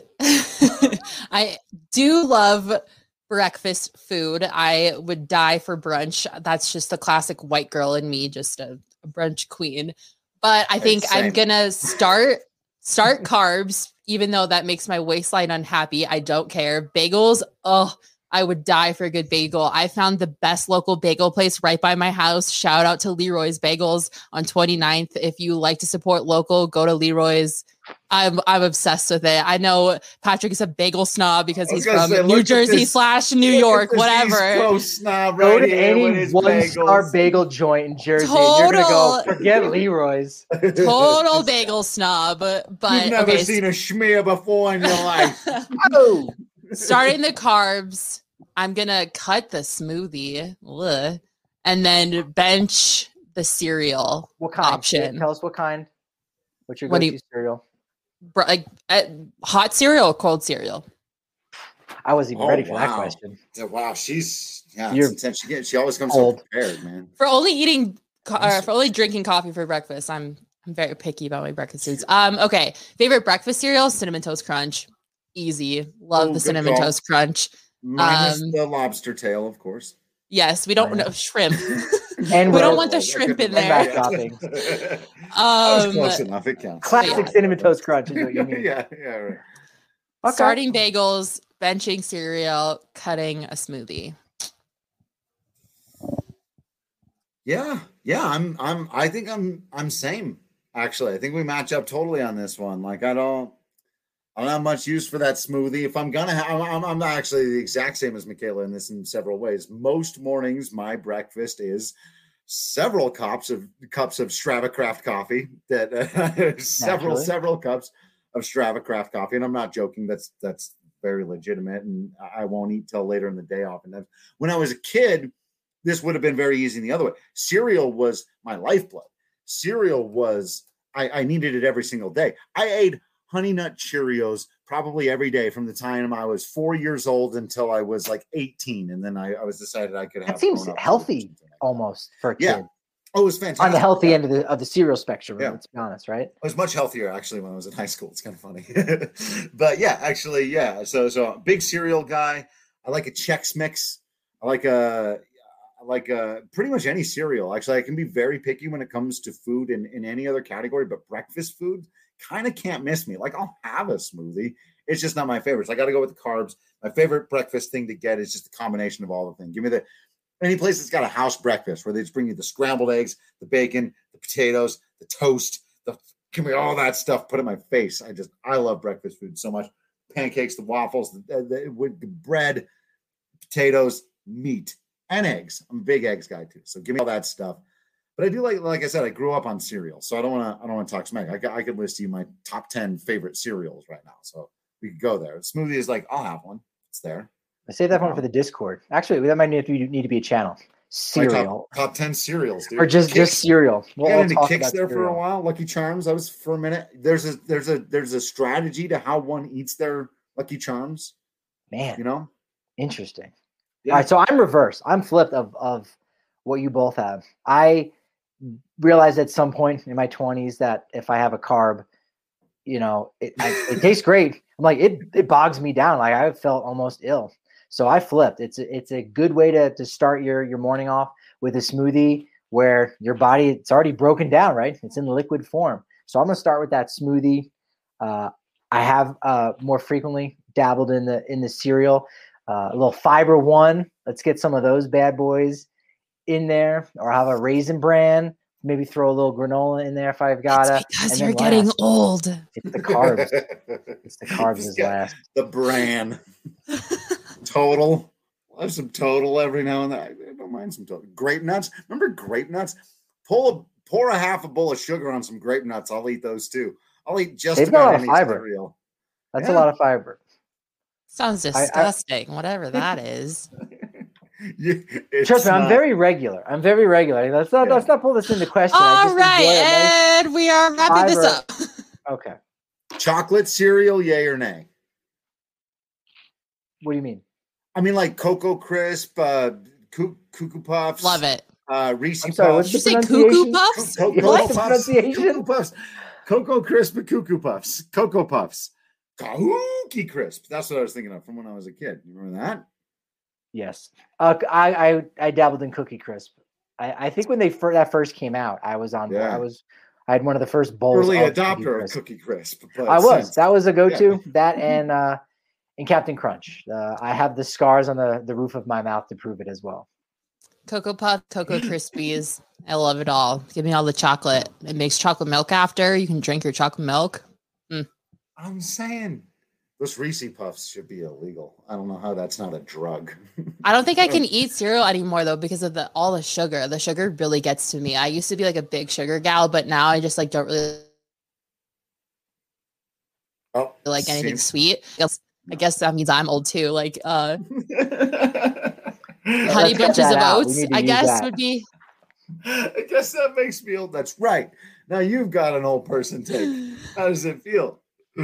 I do love breakfast food. I would die for brunch. That's just the classic white girl in me, just a, a brunch queen. But I think
Same.
I'm gonna start start carbs, even though that makes my waistline unhappy. I don't care. Bagels, oh, I would die for a good bagel. I found the best local bagel place right by my house. Shout out to Leroy's Bagels on twenty-ninth. If you like to support local, go to Leroy's. I'm I'm obsessed with it. I know Patrick is a bagel snob because
I was
he's
gonna
from
say, look
New
at
Jersey
this-
slash New
Look at
York,
this
whatever.
East Coast snob
Go
right
to
here with
any
his
one-star
bagels.
bagel joint in Jersey, and you're gonna go
Total-
forget Leroy's.
Total bagel snob. But
You've never
okay,
seen a schmear before in your life.
Oh,
starting the carbs, I'm gonna cut the smoothie, ugh, and then bench the cereal
what kind?
option.
Tell us what kind. What's your
What do
go-to
you-
cereal?
Br- Like uh, hot cereal or cold cereal?
I wasn't even
Oh,
ready for that
wow.
question.
Wow, she's yeah,
You're
it's intense. She, gets, she always comes
old.
so prepared, man.
For only eating, co- uh, for only drinking coffee for breakfast, I'm I'm very picky about my breakfast foods. Um, okay, favorite breakfast cereal: Cinnamon Toast Crunch, easy. Love
Ooh,
the
good
Cinnamon
call.
Toast Crunch.
Minus
Um,
the lobster tail, of course.
Yes, we don't
Minus-
know shrimp.
And
We don't
roll.
want the
I
shrimp
couldn't
in
And
there.
back
remember.
toppings.
That was
Um,
close enough. It counts.
Classic
Yeah.
Cinnamon Toast Crunch is what you mean.
yeah, yeah, right.
Okay.
Starting bagels, benching cereal, cutting a smoothie.
Yeah, yeah. I'm, I'm. I think I'm, I'm same. Actually, I think we match up totally on this one. Like, I don't, I don't have much use for that smoothie. If I'm gonna have, I'm, I'm actually the exact same as Michaela in this in several ways. Most mornings, my breakfast is several cups of cups of Stravacraft coffee. That uh, several,
Naturally.
several cups of Stravacraft coffee, and I'm not joking. That's that's very legitimate, and I won't eat till later in the day. Often, when I was a kid, this would have been very easy the other way. Cereal was my lifeblood. Cereal was, I, I needed it every single day. I ate Honey Nut Cheerios probably every day from the time I was four years old until I was like eighteen. And then I, I was decided I could have.
That seems
grown-up
healthy
something like that.
almost for a
Yeah.
kid.
Oh, it was fantastic.
On the healthy
Yeah.
end of the of the cereal spectrum,
Yeah.
let's be honest, right?
I was much healthier actually when I was in high school. It's kind of funny, but yeah, actually, yeah. So, so big cereal guy. I like a Chex Mix. I like a, I like a pretty much any cereal. Actually, I can be very picky when it comes to food in, in any other category, but breakfast food kind of can't miss me. Like, I'll have a smoothie. It's just not my favorite. So I got to go with the carbs. My favorite breakfast thing to get is just the combination of all the things. Give me the any place that's got a house breakfast where they just bring you the scrambled eggs, the bacon, the potatoes, the toast, the give me all that stuff, put it in my face. I just, I love breakfast food so much. Pancakes, the waffles, the, the, with the bread, potatoes, meat, and eggs. I'm a big eggs guy too. So give me all that stuff. But I do like, like I said, I grew up on cereal. So I don't want to, I don't want to talk smack. I, could- I could list you my top ten favorite cereals right now. So we could go there. Smoothie is like, I'll have one. It's there.
I save that one for the Discord. Actually, that might need to, need to be a channel.
My
Cereal.
top, top ten cereals, dude.
Or just,
Kicks.
just cereal.
You
We'll
got
all
into
talk
Kicks
about
there for a
cereal.
while. Lucky Charms. I was for a minute. There's a there's a there's a strategy to how one eats their Lucky Charms.
Man,
You know.
interesting.
Yeah.
All right, so I'm reverse. I'm flipped of of what you both have. I realized at some point in my twenties that if I have a carb, you know, it, I, it tastes great. I'm like, it it bogs me down. Like I felt almost ill. So I flipped. It's a, it's a good way to to start your your morning off with a smoothie where your body, it's already broken down, right? It's in liquid form. So I'm going to start with that smoothie. Uh, I have uh, more frequently dabbled in the in the cereal. Uh, a little Fiber One. Let's get some of those bad boys in there, or have a Raisin Bran. Maybe throw a little granola in there if I've got
it.
it.
Because you're getting
last,
old.
It's the carbs. It's the carbs is last.
The bran. Total. I have some Total every now and then. I don't mind some Total. Grape nuts. Remember grape nuts? Pull a, pour a half a bowl of sugar on some grape nuts. I'll eat those too. I'll eat just
They've
about
got a lot
any
of fiber.
cereal.
That's
Yeah.
a lot of fiber.
Sounds disgusting. I, I, whatever that is.
You,
Trust me, not, I'm very regular. I'm very regular. Let's not yeah. let's not pull this into question.
All right, Ed, nice we are wrapping fiber. this up.
Okay.
Chocolate cereal, yay or nay?
What do you mean?
I mean, like Cocoa Crisp, uh, Cuckoo Puffs.
Love it.
Uh, Reese
I'm sorry,
Puffs.
Did you say Cuckoo Puffs?
Co- Co-
what?
Cocoa Puffs. Cocoa Puffs. Cocoa Crisp and Cuckoo Puffs. Cocoa Puffs. Cookie Crisp. That's what I was thinking of from when I was a kid. You remember that?
Yes. Uh, I, I I dabbled in Cookie Crisp. I, I think when they fir- that first came out, I was on. Yeah. I was. I had one of the first bowls.
Early
of
adopter
Cookie Crisp.
of Cookie Crisp.
I was. Since. That was a go-to. Yeah. That and uh, and Captain Crunch. Uh, I have the scars on the, the roof of my mouth to prove it as well.
Cocoa Puff, Cocoa Krispies. I love it all. Give me all the chocolate. It makes chocolate milk after. You can drink your chocolate milk. Mm.
I'm saying those Reese Puffs should be illegal. I don't know how that's not a drug.
I don't think I can eat cereal anymore though because of the all the sugar. The sugar really gets to me. I used to be like a big sugar gal, but now I just like don't really
oh,
like anything sweet. I guess, I guess that means I'm old too. Like uh honey bunches of oats, I guess that. would be.
I guess that makes me old. That's right. Now you've got an old person take. How does it feel?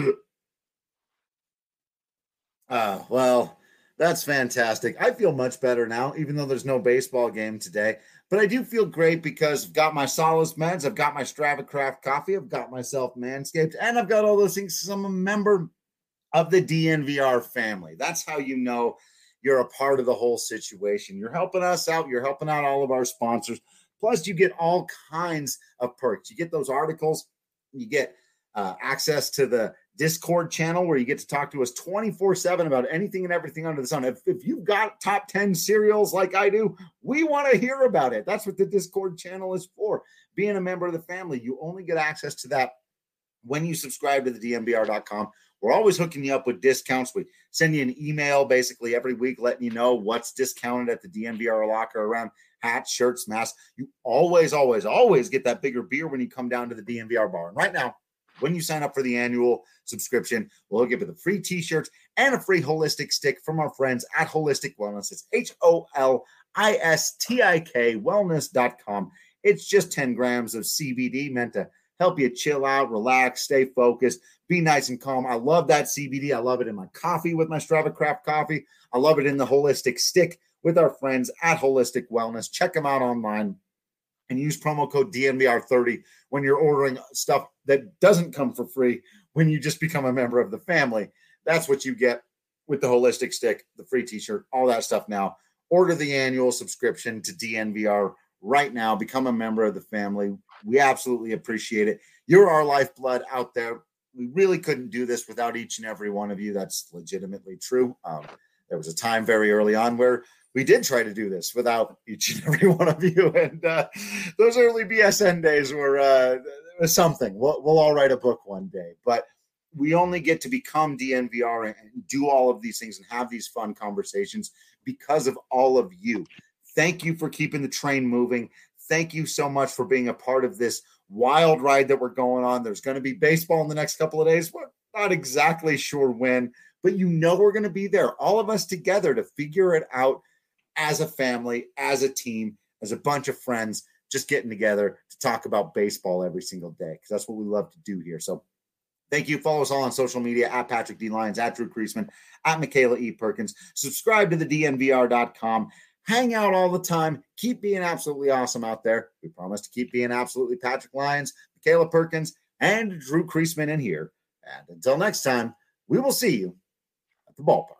Uh, well, that's fantastic. I feel much better now, even though there's no baseball game today. But I do feel great because I've got my Solace meds, I've got my StravaCraft coffee, I've got myself Manscaped, and I've got all those things because I'm a member of the D N V R family. That's how you know you're a part of the whole situation. You're helping us out. You're helping out all of our sponsors. Plus, you get all kinds of perks. You get those articles. You get uh, access to the Discord channel where you get to talk to us twenty-four seven about anything and everything under the sun. If, if you've got top ten cereals like I do, we want to hear about it. That's what the Discord channel is for. Being a member of the family, you only get access to that when you subscribe to the D N V R dot com. We're always hooking you up with discounts. We send you an email basically every week letting you know what's discounted at the D N V R locker around hats, shirts, masks. You always, always, always get that bigger beer when you come down to the D N V R bar. And right now, when you sign up for the annual subscription, we'll give you the free t-shirts and a free holistic stick from our friends at Holistic Wellness. It's H O L I S T I K wellness dot com. It's just ten grams of C B D meant to help you chill out, relax, stay focused, be nice and calm. I love that C B D. I love it in my coffee with my StravaCraft coffee. I love it in the holistic stick with our friends at Holistic Wellness. Check them out online and use promo code D N V R thirty when you're ordering stuff that doesn't come for free when you just become a member of the family. That's what you get with the holistic stick, the free t-shirt, all that stuff now. Order the annual subscription to D N V R right now. Become a member of the family. We absolutely appreciate it. You're our lifeblood out there. We really couldn't do this without each and every one of you. That's legitimately true. Um, there was a time very early on where we did try to do this without each and every one of you. And uh, those early B S N days were uh, something. We'll, we'll all write a book one day. But we only get to become D N V R and do all of these things and have these fun conversations because of all of you. Thank you for keeping the train moving. Thank you so much for being a part of this wild ride that we're going on. There's going to be baseball in the next couple of days. We're not exactly sure when, but you know we're going to be there, all of us together to figure it out as a family, as a team, as a bunch of friends, just getting together to talk about baseball every single day because that's what we love to do here. So thank you. Follow us all on social media at Patrick D. Lyons, at Drew Creasman, at Michaela E. Perkins. Subscribe to the D N V R dot com. Hang out all the time. Keep being absolutely awesome out there. We promise to keep being absolutely Patrick Lyons, Michaela Perkins, and Drew Creasman in here. And until next time, we will see you at the ballpark.